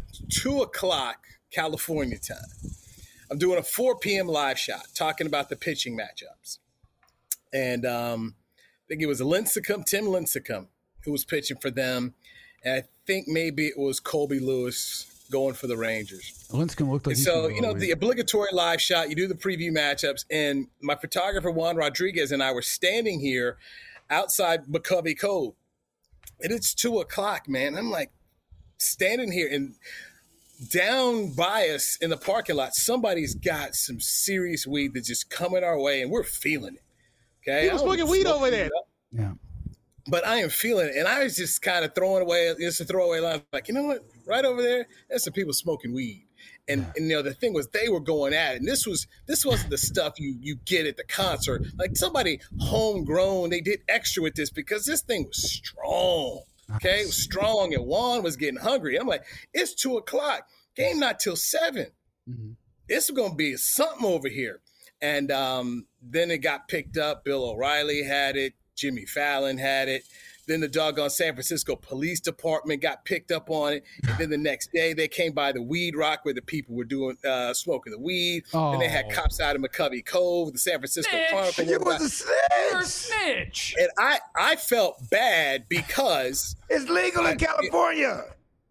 2:00 California time. I'm doing a 4 p.m. live shot talking about the pitching matchups. And I think it was Tim Lincecum, who was pitching for them. And I think maybe it was Colby Lewis going for the Rangers. Lincecum looked like so, the obligatory live shot, you do the preview matchups. And my photographer, Juan Rodriguez, and I were standing here outside McCovey Cove. And it's 2:00, man. I'm like standing here, and down by us in the parking lot, somebody's got some serious weed that's just coming our way, and we're feeling it. Okay, people smoking weed over there. Yeah, but I am feeling it, and I was just kind of throwing away, just a throwaway line, like, you know what, right over there, there's some people smoking weed, and the thing was, they were going at it, and this wasn't the stuff you get at the concert, like somebody homegrown, they did extra with this because this thing was strong. Okay, it was strong, and Juan was getting hungry. I'm like, it's 2:00. Game not till 7. Mm-hmm. It's going to be something over here. And then it got picked up. Bill O'Reilly had it. Jimmy Fallon had it. Then the doggone San Francisco Police Department got picked up on it. And then the next day, they came by the Weed Rock where the people were doing smoking the weed. And they had cops out of McCovey Cove, the San Francisco Chronicle. You was a snitch. You're a snitch. And I felt bad because it's legal in California.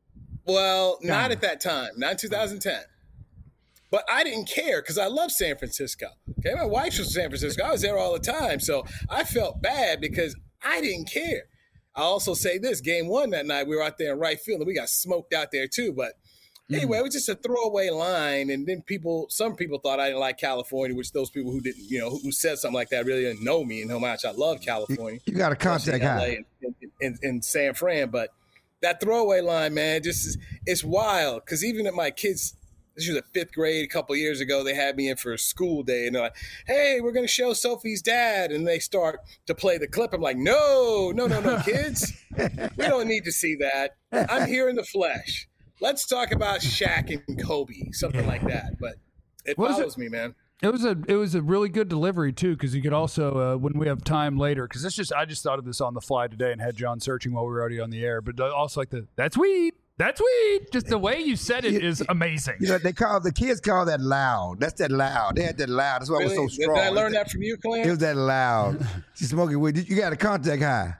Well, not at that time, not in 2010. But I didn't care because I love San Francisco. Okay, my wife's from San Francisco. I was there all the time. So I felt bad because I didn't care. I also say this, game 1 that night, we were out there in right field and we got smoked out there too. But anyway, it was just a throwaway line. And then some people thought I didn't like California, which those people who didn't, who said something like that really didn't know me and how much I love California. You got a contact high. In San Fran. But that throwaway line, man, it's wild. Because even at my kids, this was the 5th grade a couple of years ago, they had me in for a school day. And they're like, hey, we're going to show Sophie's dad. And they start to play the clip. I'm like, no, kids. We don't need to see that. I'm here in the flesh. Let's talk about Shaq and Kobe, something like that. But it follows me, man. It was a really good delivery too, because you could also when we have time later, because I just thought of this on the fly today and had John searching while we were already on the air, but also like that's weed. That's weed. Just the way you said it is amazing. The kids call that loud. That's that loud. They had that loud. That's why really? It was so strong. Did I learn that from you, Clint? It was that loud. She's smoking weed. You got a contact high.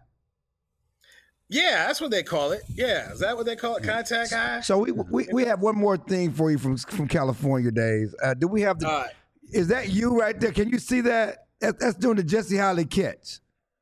Yeah, that's what they call it. Yeah, is that what they call it? Contact high. So we have one more thing for you from California days. Do we have the? Is that you right there? Can you see that? That's doing the Jesse Holly catch.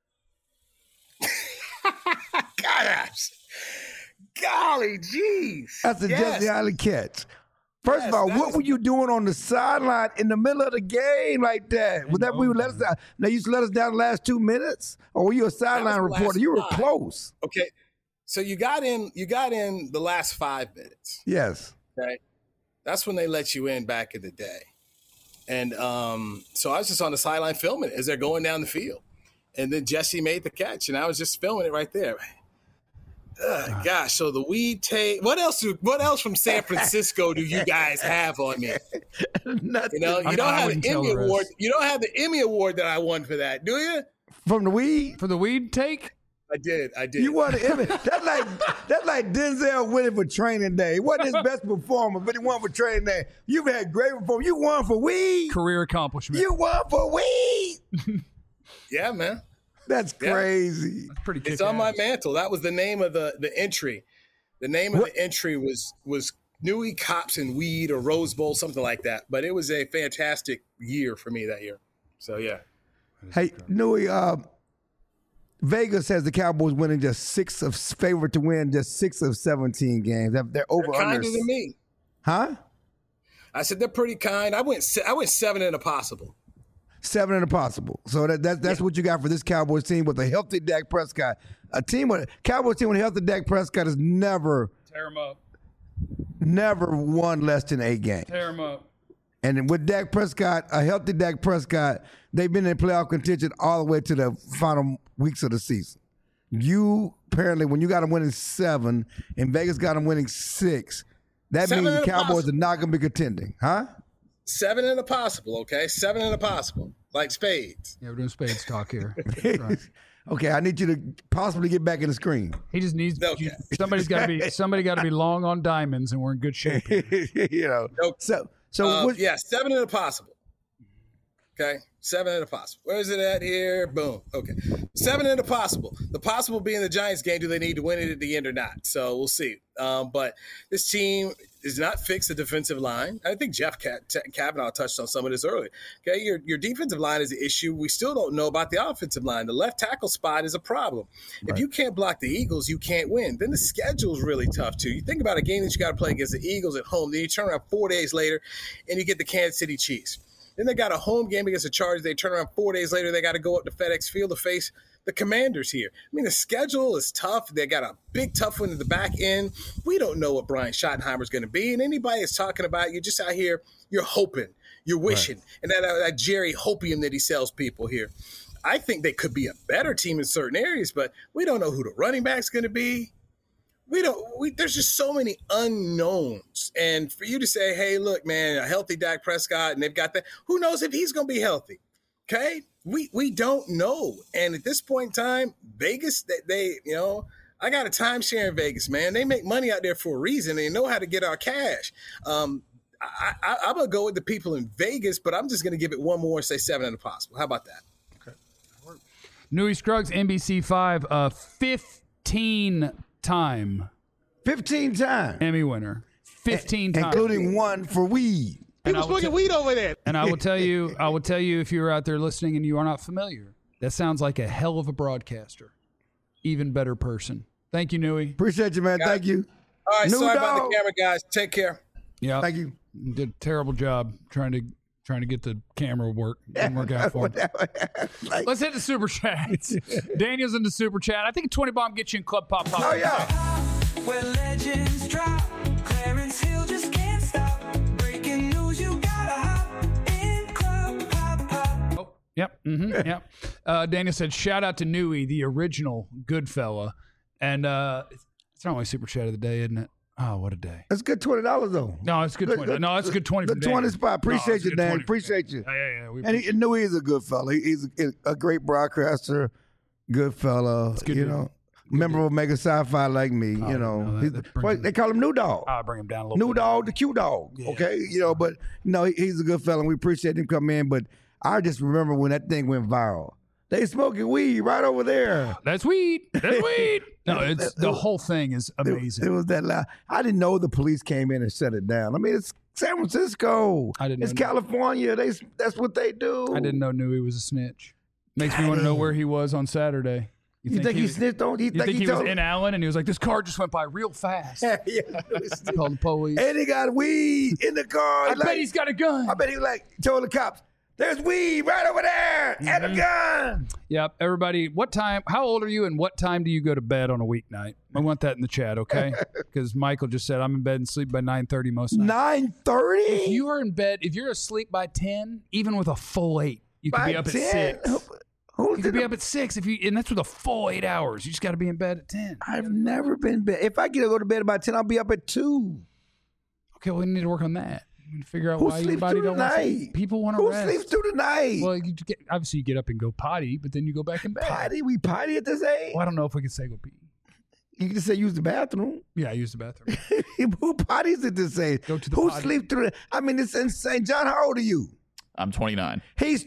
Gosh. Golly, jeez. That's the Jesse Holly catch. First of all, what were you doing on the sideline in the middle of the game like that? Was that we would let us down? Now you let us down the last 2 minutes, or were you a sideline reporter? You were close. Okay, so you got in the last 5 minutes. Yes. Okay, that's when they let you in back in the day, and so I was just on the sideline filming it as they're going down the field, and then Jesse made the catch, and I was just filming it right there. Gosh, so the weed tape. What else from San Francisco do you guys have on me? Nothing. You don't have the Emmy Award. You don't have the Emmy Award that I won for that, do you? From the weed? For the weed take? I did. You won an Emmy. That's like Denzel winning for Training Day. It wasn't his best performance, but he won for Training Day. You've had great performance. You won for weed. Career accomplishment. You won for weed. Yeah, man. That's crazy. That's pretty kick-ass. It's on my mantle. That was the name of the entry. The name of the entry was Newey Cops and Weed or Rose Bowl, something like that. But it was a fantastic year for me that year. So, yeah. Hey, Newey, Vegas has the Cowboys winning favorite to win just 6 of 17 games. They're over They're under. kinder than me. Huh? I said they're pretty kind. I went 7 in a possible. 7 in a possible. So that's what you got for this Cowboys team with a healthy Dak Prescott. Cowboys team with a healthy Dak Prescott has never won less than 8 games. Tear him up. And with Dak Prescott, a healthy Dak Prescott, they've been in playoff contention all the way to the final weeks of the season. You apparently, when you got them winning 7 and Vegas got them winning 6, that means the Cowboys are not going to be contending, huh? 7 and a possible, okay? 7 and a possible, like spades. Yeah, we're doing spades talk here. Right. Okay, I need you to possibly get back in the screen. He just needs somebody got to be long on diamonds, and we're in good shape. You know. Okay. So 7 and a possible. Okay, 7 and a possible. Where is it at here? Boom. Okay, 7 and a possible. The possible being the Giants game. Do they need to win it at the end or not? So we'll see. But this team is not fixed the defensive line. I think Jeff Kavanaugh touched on some of this earlier. Okay, your defensive line is an issue. We still don't know about the offensive line. The left tackle spot is a problem. Right. If you can't block the Eagles, you can't win. Then the schedule is really tough too. You think about a game that you got to play against the Eagles at home. Then you turn around 4 days later, and you get the Kansas City Chiefs. Then they got a home game against the Chargers. They turn around 4 days later. They got to go up to FedEx Field to face the Commanders here. I mean, the schedule is tough. They got a big tough one at the back end. We don't know what Brian Schottenheimer's going to be. And anybody is talking about, you're just out here, you're hoping, you're wishing. Right. And that Jerry Hopium that he sells people here. I think they could be a better team in certain areas, but we don't know who the running back's going to be. There's just so many unknowns. And for you to say, hey, look, man, a healthy Dak Prescott, and they've got that, who knows if he's going to be healthy? Okay? We don't know. And at this point in time, Vegas, I got a timeshare in Vegas, man. They make money out there for a reason. They know how to get our cash. I'm going to go with the people in Vegas, but I'm just going to give it one more and say 7 and a possible. How about that? Okay. Newy Scruggs, NBC5, 15 time Emmy winner, 15 times, including one for weed. He was smoking weed over there. And I will tell you, if you're out there listening and you are not familiar, that sounds like a hell of a broadcaster, even better person. Thank you, Newy. Appreciate you, man. Thank you. All right, sorry about the camera, guys. Take care. Yeah, thank you. Did a terrible job trying to get the camera work. Didn't work out for him. Let's hit the super chats. Daniel's in the super chat. I think a 20 bomb gets you in Club Pop. Oh, yeah. Where legends drop, Clarence Hill just can't stop. Breaking news, you gotta hop in Club Pop. Oh, yep. Mm-hmm, yep. Daniel said, shout out to Newy, the original good fella. And it's not my super chat of the day, isn't it? Oh, what a day. That's good $20, though. No, it's good 20. No, it's good 20 for Dan. 20 spot. Appreciate you, Dan. Appreciate you. Yeah. And he knew he's a good fella. He's a great broadcaster, good fella, member of Omega Sci-Fi like me, they call him New Dog. I'll bring him down a little bit. New Dog, the Q Dog, okay? But, he's a good fella, and we appreciate him coming in. But I just remember when that thing went viral. They smoking weed right over there. That's weed. That's weed. No, the whole thing is amazing. It was that loud. I didn't know the police came in and shut it down. I mean, it's San Francisco. It's California. That's what they do. I didn't know Newy was a snitch. Makes me want to know where he was on Saturday. You think he snitched on? You think he was in Allen and he was like, this car just went by real fast. Yeah. Called the police. And he got weed in the car. I bet he's got a gun. I bet he told the cops, there's weed right over there and a gun. Yep. Everybody, how old are you and what time do you go to bed on a weeknight? I want that in the chat, okay? Because Michael just said I'm in bed and sleep by 9:30 most nights. 9:30? If you are in bed, if you're asleep by 10, even with a full 8, you could be up 10? At 6. You could be up at 6 and that's with a full 8 hours. You just got to be in bed at 10. I've never been in bed. If I get to go to bed about 10, I'll be up at 2. Okay, well, we need to work on that. Figure out who why everybody don't want to. People want to rest. Who sleeps through the night? Well, obviously you get up and go potty, but then you go back in bed. Potty? We potty at this age? Well, I don't know if we can say go pee. You can just say use the bathroom. Yeah, I use the bathroom. Who potties at this age? Go to the Who potty. sleep through the... I mean, it's insane. John, how old are you? I'm 29. He's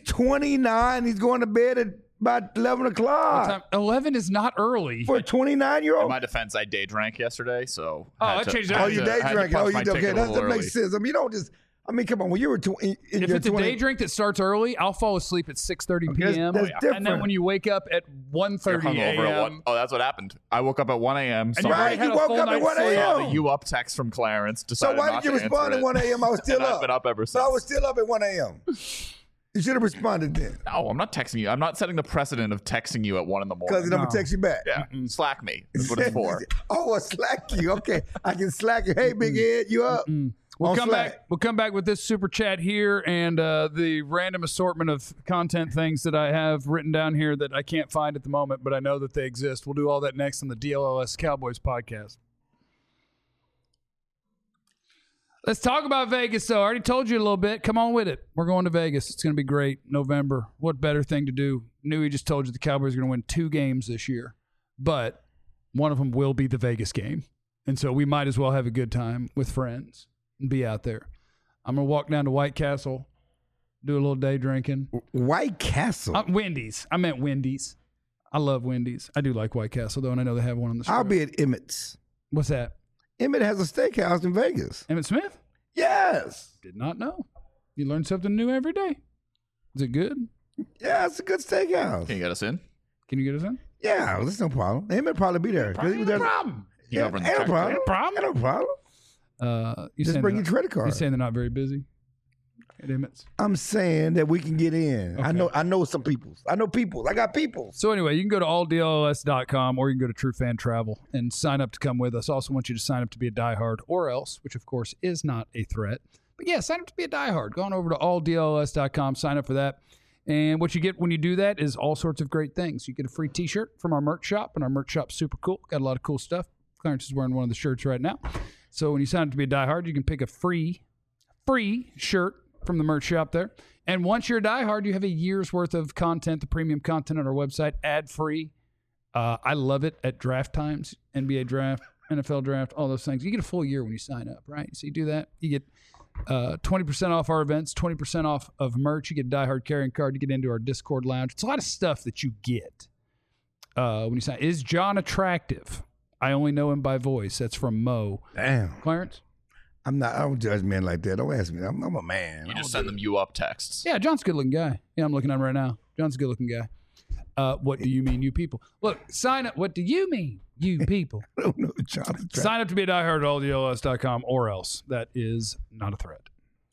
29. He's going to bed at about 11 o'clock. 11 is not early. For a 29-year-old? In my defense, I day drank yesterday, so... that changes everything. Oh, you day drank. Oh, okay. That makes sense. I mean, you don't just... come on. When you were if it's a day drink that starts early, I'll fall asleep at 6:30 p.m. That's different. And then when you wake up at 1:30 a.m. Oh, that's what happened. I woke up at 1 a.m. You woke up at 1 a.m. Saw the you up text from Clarence. So why did you respond at 1 a.m.? I was still up. I've been up ever since. So I was still up at 1 a.m. You should have responded then. No, I'm not texting you. I'm not setting the precedent of texting you at 1 in the morning. Because I'm going to text you back. Yeah. Slack me. That's what it's for. Oh, slack you. Okay. I can slack you. Hey, big head, you up? We'll come back with this super chat here and the random assortment of content things that I have written down here that I can't find at the moment, but I know that they exist. We'll do all that next on the DLLS Cowboys podcast. Let's talk about Vegas, though. I already told you a little bit. Come on with it. We're going to Vegas. It's going to be great. November. What better thing to do? Newey just told you the Cowboys are going to win 2 games this year, but one of them will be the Vegas game. And so we might as well have a good time with friends and be out there. I'm going to walk down to White Castle, do a little day drinking. White Castle? Wendy's. I meant Wendy's. I love Wendy's. I do like White Castle, though, and I know they have one on the Strip. I'll be at Emmett's. What's that? Emmett has a steakhouse in Vegas. Emmitt Smith? Yes. Did not know. You learn something new every day. Is it good? Yeah, it's a good steakhouse. Can you get us in? Can you get us in? Yeah, that's no problem. Emmett probably be there. No problem. Yeah, ain't no problem. Ain't no problem. Just bring your credit card. You're saying they're not very busy at Emmett's? I'm saying that we can get in. Okay. I know some people. I know people. I got people. So anyway, you can go to alldls.com or you can go to True Fan Travel and sign up to come with us. Also want you to sign up to be a diehard or else, which of course is not a threat. But yeah, sign up to be a diehard. Go on over to alldls.com, sign up for that. And what you get when you do that is all sorts of great things. You get a free T-shirt from our merch shop, and our merch shop's super cool. Got a lot of cool stuff. Clarence is wearing one of the shirts right now. So when you sign up to be a diehard, you can pick a free shirt from the merch shop there. And once you're a diehard, you have a year's worth of content, the premium content on our website, ad-free. I love it at draft times, NBA draft, NFL draft, all those things. You get a full year when you sign up, right? So you do that. You get 20% off our events, 20% off of merch. You get a diehard carrying card. You get into our Discord lounge. It's a lot of stuff that you get when you sign. Is John attractive? I only know him by voice. That's from Mo. Damn. Clarence? I don't judge men like that. Don't ask me. I'm a man. You just send them you up texts. Yeah, John's a good looking guy. Yeah, I'm looking at him right now. John's a good looking guy. What do you mean, you people? Look, sign up. What do you mean, you people? I don't know. John's sign up to be a diehard at alldls.com or else. That is not a threat.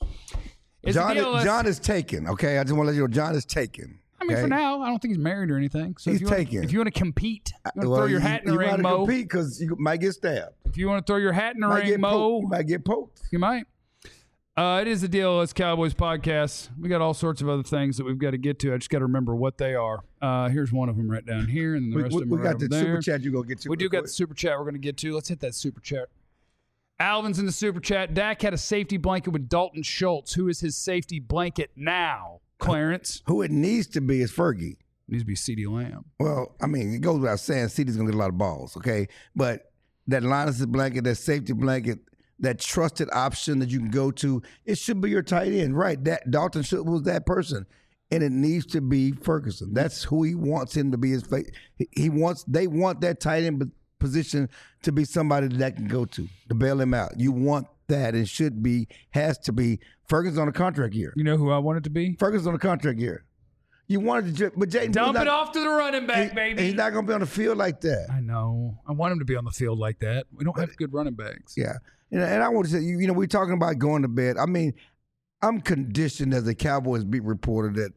John is taken, okay? I just want to let you know John is taken. I mean, for now, I don't think he's married or anything. So he's taken. If you want to compete, you want to throw your hat in the ring, Mo. You might compete because you might get stabbed. If you want to throw your hat in the ring, Mo. You might get poked. You might. It is the DLS Cowboys podcast. We got all sorts of other things that we've got to get to. I just got to remember what they are. Here's one of them right down here, and then the rest of them are over there. We got the super chat you're going to get to. We do got the super chat we're going to get to. Let's hit that super chat. Alvin's in the super chat. Dak had a safety blanket with Dalton Schultz. Who is his safety blanket now, Clarence? Who it needs to be is Fergie. Needs to be CeeDee Lamb. Well, I mean, it goes without saying CeeDee's going to get a lot of balls, okay? But that Linus blanket, that safety blanket, that trusted option that you can go to, it should be your tight end, right? That Dalton Schultz was that person, and it needs to be Ferguson. That's who he wants him to be. They want that tight end position to be somebody that can go to bail him out. You want that. It has to be Ferguson on a contract year. You know who I want it to be? Ferguson on a contract year. You wanted to, but Jayden dump it off to the running back, baby. He's not going to be on the field like that. I know. I want him to be on the field like that. We don't have good running backs. Yeah, and I want to say, we're talking about going to bed. I mean, I'm conditioned as a Cowboys beat reporter that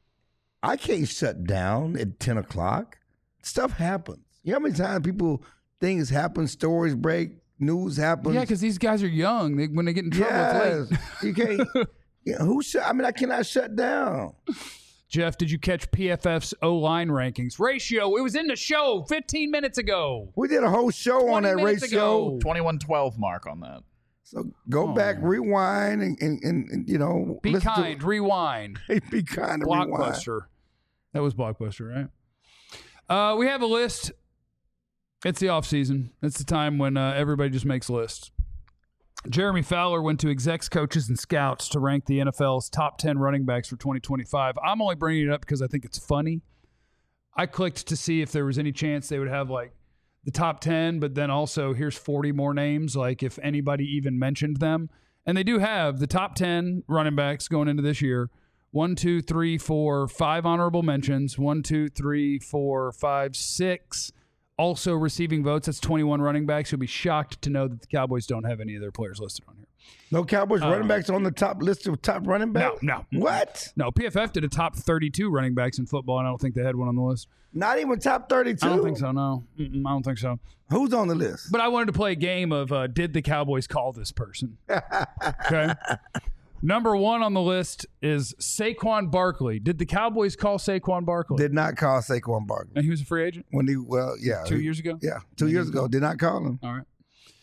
I can't shut down at 10 o'clock. Stuff happens. You know how many times things happen, stories break, news happens? Yeah, because these guys are young. When they get in trouble, it's late. You can't. I cannot shut down. Jeff, did you catch PFF's O-line rankings? Ratio, it was in the show 15 minutes ago. We did a whole show on that ratio. 21-12 mark on that. So go back, rewind, and Be kind, rewind. Be kind, Blockbuster. Rewind. That was Blockbuster, right? We have a list. It's the offseason. It's the time when everybody just makes lists. Jeremy Fowler went to execs, coaches, and scouts to rank the NFL's top 10 running backs for 2025. I'm only bringing it up because I think it's funny. I clicked to see if there was any chance they would have like the top 10, but then also here's 40 more names, like if anybody even mentioned them. And they do have the top 10 running backs going into this year. 1, 2, 3, 4, 5 honorable mentions. 1, 2, 3, 4, 5, 6 also receiving votes. That's 21 running backs. You'll be shocked to know that the Cowboys don't have any of their players listed on here. No Cowboys running backs on the top list of top running backs? No. What? No, PFF did a top 32 running backs in football, and I don't think they had one on the list. Not even top 32? I don't think so, no. I don't think so. Who's on the list? But I wanted to play a game of did the Cowboys call this person? Okay. Number 1 on the list is Saquon Barkley. Did the Cowboys call Saquon Barkley? Did not call Saquon Barkley. And he was a free agent? 2 years ago? Yeah. 2 years ago. Did not call him. All right.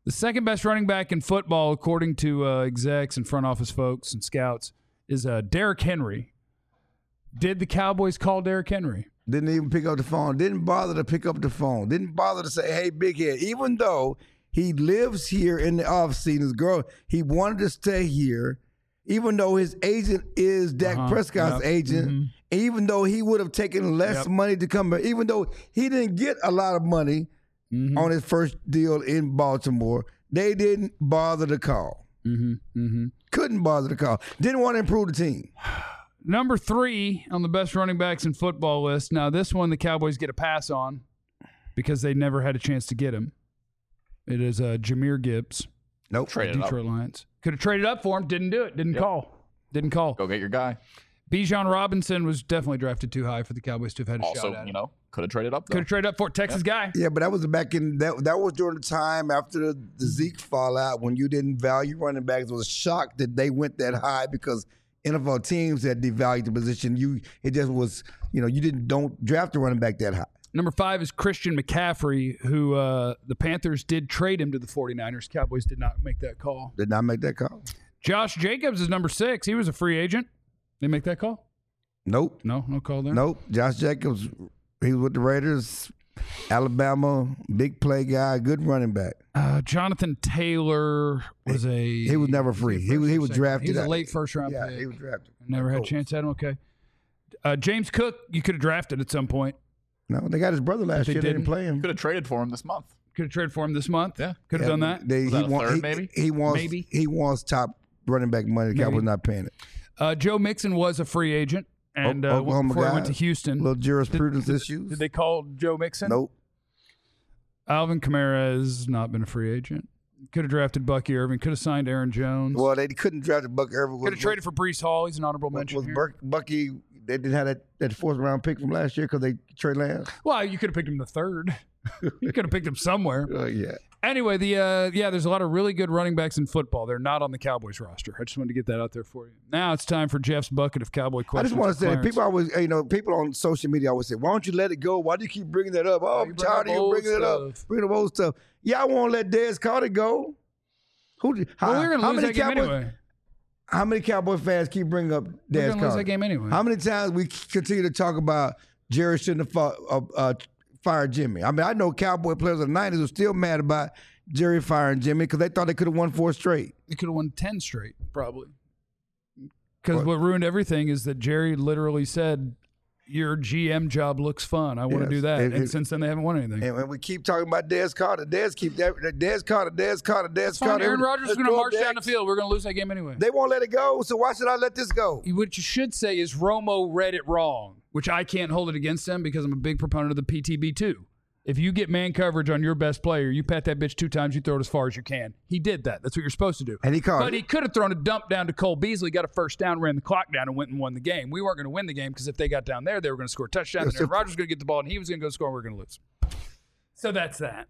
The second best running back in football, according to execs and front office folks and scouts, is Derrick Henry. Did the Cowboys call Derrick Henry? Didn't even pick up the phone. Didn't bother to pick up the phone. Didn't bother to say, hey, big head. Even though he lives here in the offseason, he wanted to stay here. Even though his agent is Dak Prescott's agent, even though he would have taken less money to come back, even though he didn't get a lot of money on his first deal in Baltimore, they didn't bother to call. Couldn't bother to call. Didn't want to improve the team. Number 3 on the best running backs in football list. Now, this one the Cowboys get a pass on because they never had a chance to get him. It is Jahmyr Gibbs. Nope. Detroit Lions. Could have traded up for him. Didn't do it. Didn't call. Go get your guy. Bijan Robinson was definitely drafted too high for the Cowboys to have had a shot at him. Could have traded up. Could have traded up for Texas guy. Yeah, but that was back in that was during the time after the Zeke fallout when you didn't value running backs. It was a shock that they went that high because NFL teams had devalued the position. It just was, you don't draft a running back that high. Number 5 is Christian McCaffrey, who the Panthers did trade him to the 49ers. Cowboys did not make that call. Did not make that call. Josh Jacobs is number 6. He was a free agent. They make that call? Nope. No call there? Nope. Josh Jacobs, he was with the Raiders, Alabama, big play guy, good running back. Jonathan Taylor was he was never free. He was drafted. He was a late first-round pick. Yeah, he was drafted. Never had a chance at him. Okay. James Cook, you could have drafted at some point. No, they got his brother last year. They didn't play him. Could have traded for him this month. Could have traded for him this month. Yeah. Could have done that. He wants top running back money. The Cowboys not paying it. Joe Mixon was a free agent. And before he went to Houston. Little jurisprudence issues. Did they call Joe Mixon? Nope. Alvin Kamara has not been a free agent. Could have drafted Bucky Irving. Could have signed Aaron Jones. Well, they couldn't draft Bucky Irving. Could have traded for Breece Hall. He's an honorable mention. Was Bucky? They didn't have that fourth-round pick from last year because they traded Lance. Well, you could have picked him the 3rd. You could have picked him somewhere. Yeah. Anyway, there's a lot of really good running backs in football. They're not on the Cowboys roster. I just wanted to get that out there for you. Now it's time for Jeff's bucket of Cowboy questions. I just want to say, people always, people on social media always say, "Why don't you let it go? Why do you keep bringing that up? Oh, I'm tired of you bringing it up. Bringing the old stuff. Yeah, I won't let Dez Carter go. We're going to lose that game anyway. How many Cowboy fans keep bringing up Dez Carter? We're going to lose that game anyway. How many times we continue to talk about Jerry shouldn't have fired Jimmy? I mean, I know Cowboy players of the 90s are still mad about Jerry firing Jimmy because they thought they could have won 4 straight. They could have won 10 straight, probably. Because what ruined everything is that Jerry literally said, your GM job looks fun. I want to do that. And since then, they haven't won anything. And when we keep talking about Dez Carter, Dez Carter. Aaron Rodgers is going to march down the field. We're going to lose that game anyway. They won't let it go, so why should I let this go? What you should say is Romo read it wrong, which I can't hold it against him because I'm a big proponent of the PTB too. If you get man coverage on your best player, you pat that bitch 2 times, you throw it as far as you can. He did that. That's what you're supposed to do. And he caught But he could have thrown a dump down to Cole Beasley, got a first down, ran the clock down, and went and won the game. We weren't going to win the game because if they got down there, they were going to score a touchdown, and Aaron Rodgers was going to get the ball, and he was going to go score, and we were going to lose. So that's that.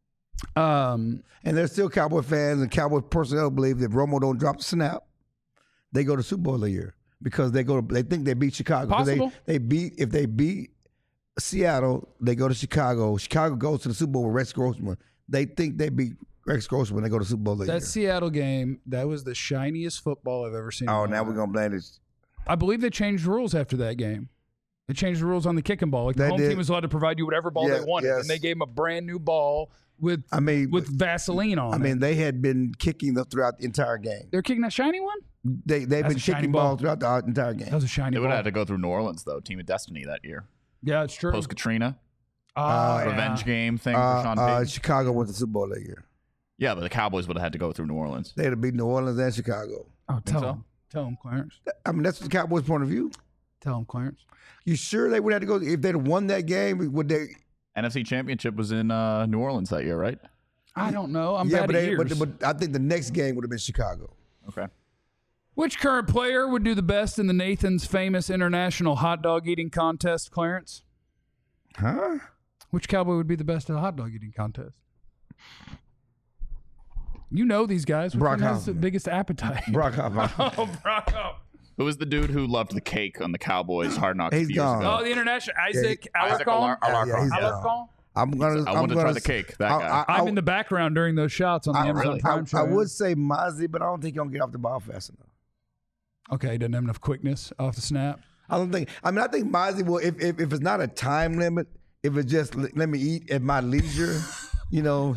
And there's still Cowboy fans and Cowboy personnel believe that Romo don't drop the snap, they go to Super Bowl a year because they think they beat Chicago. Possible. If they beat Seattle, they go to Chicago. Chicago goes to the Super Bowl with Rex Grossman. They think they beat Rex Grossman. They go to the Super Bowl that year. Seattle game, that was the shiniest football I've ever seen. Oh, now we're going to blame this. I believe they changed rules after that game. They changed the rules on the kicking ball. Like the home team was allowed to provide you whatever ball they wanted. Yes. And they gave them a brand new ball with Vaseline on it. I mean, they had been kicking throughout the entire game. They're kicking that shiny one? They've been kicking balls throughout the entire game. That was a shiny ball. They would have had to go through New Orleans, though. Team of Destiny that year. Yeah, it's true. Post-Katrina. Revenge game thing for Sean Payton. Chicago went to the Super Bowl that year. Yeah, but the Cowboys would have had to go through New Orleans. They'd have beat New Orleans and Chicago. Oh, tell them, Clarence. I mean, that's the Cowboys' point of view. Tell them, Clarence. You sure they would have to go? If they'd have won that game, would they? NFC Championship was in New Orleans that year, right? I don't know. I'm bad at years. But I think the next game would have been Chicago. Okay. Which current player would do the best in the Nathan's famous international hot dog eating contest, Clarence? Huh? Which Cowboy would be the best at the hot dog eating contest? You know these guys. Which one has the biggest appetite? Brock Hoffman. Oh, Brock Hoffman. Who was the dude who loved the cake on the Cowboys Hard Knocks? He's gone. Oh, the international Isaac Alarcon. Yeah, he's gone. I want to try the cake. That guy. I'm in the background during those shots on the Amazon Prime show. I would say Mozzie, but I don't think he's going to get off the ball fast enough. Okay, he doesn't have enough quickness off the snap. I think Mozzie will, if it's not a time limit, if it's just let me eat at my leisure, you know,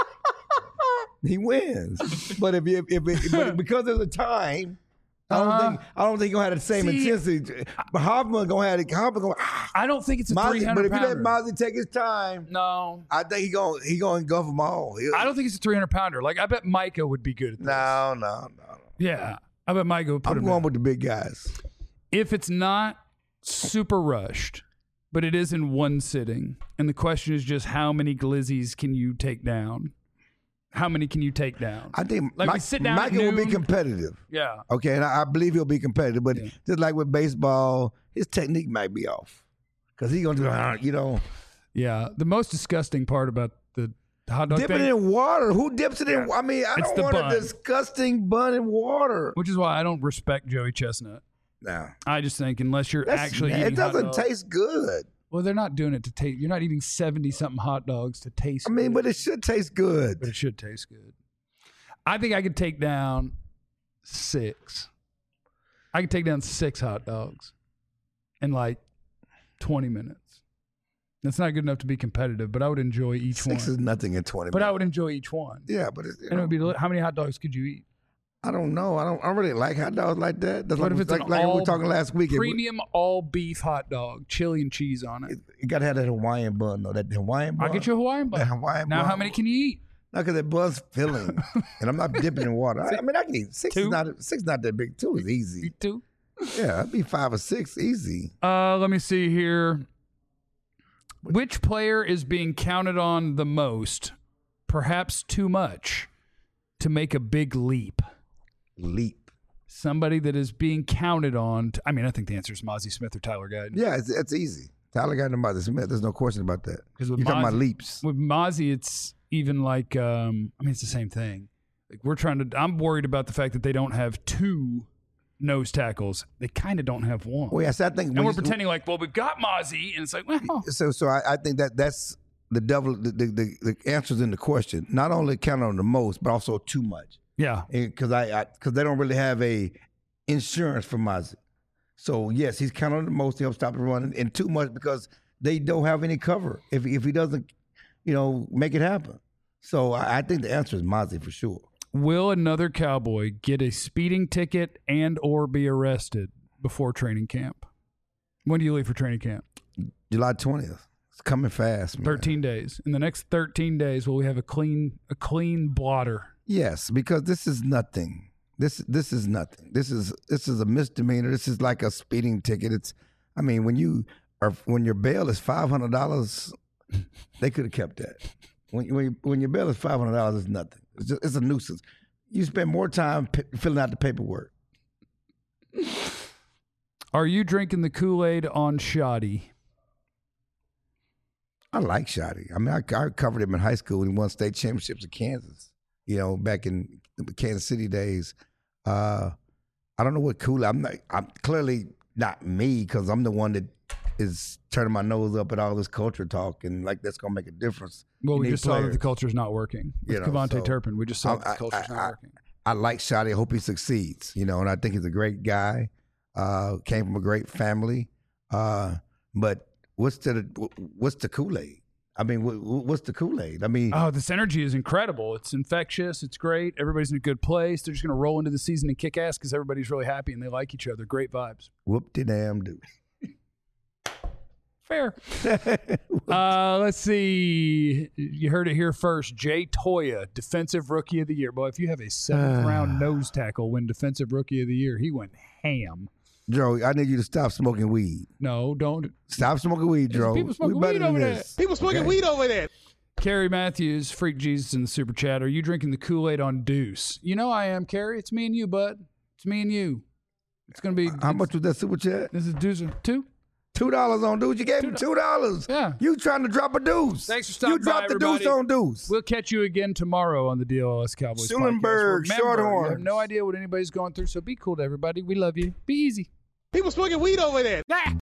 he wins. But if because there's a time, I don't think he's gonna have the same intensity. But Hoffman gonna have it. I don't think it's a 300 But if you let pounder. Mozzie take his time, No, I think he gonna engulf them all. I don't think it's a 300 pounder. Like I bet Micah would be good at this. No. Yeah, I bet Micah would put him I'm going in. with the big guys. If it's not super rushed, but it is in one sitting, and the question is just how many glizzies can you take down? How many can you take down? I think Like we sit down at Micah will be noon. competitive. Yeah. Okay, and I believe he'll be competitive. But just like with baseball, his technique might be off because he's gonna do, you know. Yeah. The most disgusting part about the hot dog Dipping thing, it in water. Who dips it in? I mean, I It's don't the want bun. a disgusting bun in water. which is why I don't respect Joey Chestnut. No, I just think unless you're actually eating it doesn't hot dogs, taste good. well, they're not doing it to taste. You're not eating 70-something hot dogs to taste. I mean, good, but it should taste good. but it should taste good. I think I could take down 6. I could take down 6 hot dogs in like 20 minutes. That's not good enough to be competitive, but I would enjoy each 6 one. is nothing in 20 But I minutes. would enjoy each one. Yeah, but And it would be how many hot dogs could you eat? I don't know. I don't really like hot dogs like that. That's What like, if it's like, an like we all were talking last week. Premium all beef hot dog, chili and cheese on it. You got to have that Hawaiian bun, though. That Hawaiian bun. I'll get you a Hawaiian bun. That Hawaiian Now, bun. how many can you eat? No, because that bun's filling, and I'm not dipping in water. I mean, I can eat 6. 2? Is not that big. 2 is easy. You too? Yeah, I'd be 5 or 6 easy. Let me see here. Which player is being counted on the most, perhaps too much, to make a big leap? Leap. Somebody that is being counted on. I mean, I think the answer is Mozzie Smith or Tyler Guyton. Yeah, it's easy. Tyler Guyton and Mozzie Smith. There's no question about that. Because You're with talking about Mozzie, leaps. with Mozzie, it's even like, I mean, it's the same thing. Like I'm worried about the fact that they don't have 2 nose tackles. They kind of don't have 1. Well, yes, I think. And we're pretending like, well, we've got Mozzie, and it's like, well. So I think that's the devil. The answer's in the question. Not only count on the most, but also too much. Yeah. Because they don't really have a insurance for Mozzie. So yes, he's counting on the most to help stop the run, and too much because they don't have any cover if he doesn't, make it happen. So I think the answer is Mozzie for sure. Will another Cowboy get a speeding ticket and or be arrested before training camp? When do you leave for training camp? July 20th. It's coming fast, man. 13 days. In the next 13 days, will we have a clean blotter? Yes, because this is nothing. This is nothing. This is a misdemeanor. This is like a speeding ticket. When your bail is $500, they could have kept that. When your bail is $500, it's nothing. It's a nuisance. You spend more time filling out the paperwork. Are you drinking the Kool-Aid on Shoddy? I like Shoddy. I covered him in high school when he won state championships in Kansas. Back in the Kansas City days. I don't know what Kool-Aid. I'm clearly not me because I'm the one that is turning my nose up at all this culture talk and like that's gonna make a difference. Well, we just saw that the culture's not working. With Kevontae Turpin, we just saw that the culture's not working. I like Shoddy. I hope he succeeds. And I think he's a great guy. Came from a great family. But what's the Kool-Aid? What's the Kool-Aid? This energy is incredible. It's infectious. It's great. Everybody's in a good place. They're just going to roll into the season and kick ass because everybody's really happy and they like each other. Great vibes. Whoop-de-damn-do. Fair. Let's see. You heard it here first. Jay Toya, Defensive Rookie of the Year. Boy, if you have a 7th-round nose tackle win Defensive Rookie of the Year, he went ham. Joe, I need you to stop smoking weed. No, don't. Stop smoking weed, Joe. People smoking weed over there. People smoking weed over there. Carrie Matthews, Freak Jesus in the Super Chat. Are you drinking the Kool-Aid on Deuce? You know I am, Carrie. It's me and you, bud. It's me and you. It's going to be... How much was that Super Chat? This is Deuce. $2? $2 on Deuce. You gave him $2. Yeah. You trying to drop a deuce. Thanks for stopping by, You dropped the deuce on Deuce. We'll catch you again tomorrow on the DLS Cowboys Schulenberg, podcast. Remember, Shorthorn. you have no idea what anybody's going through, so be cool to everybody. We love you. Be easy. People smoking weed over there.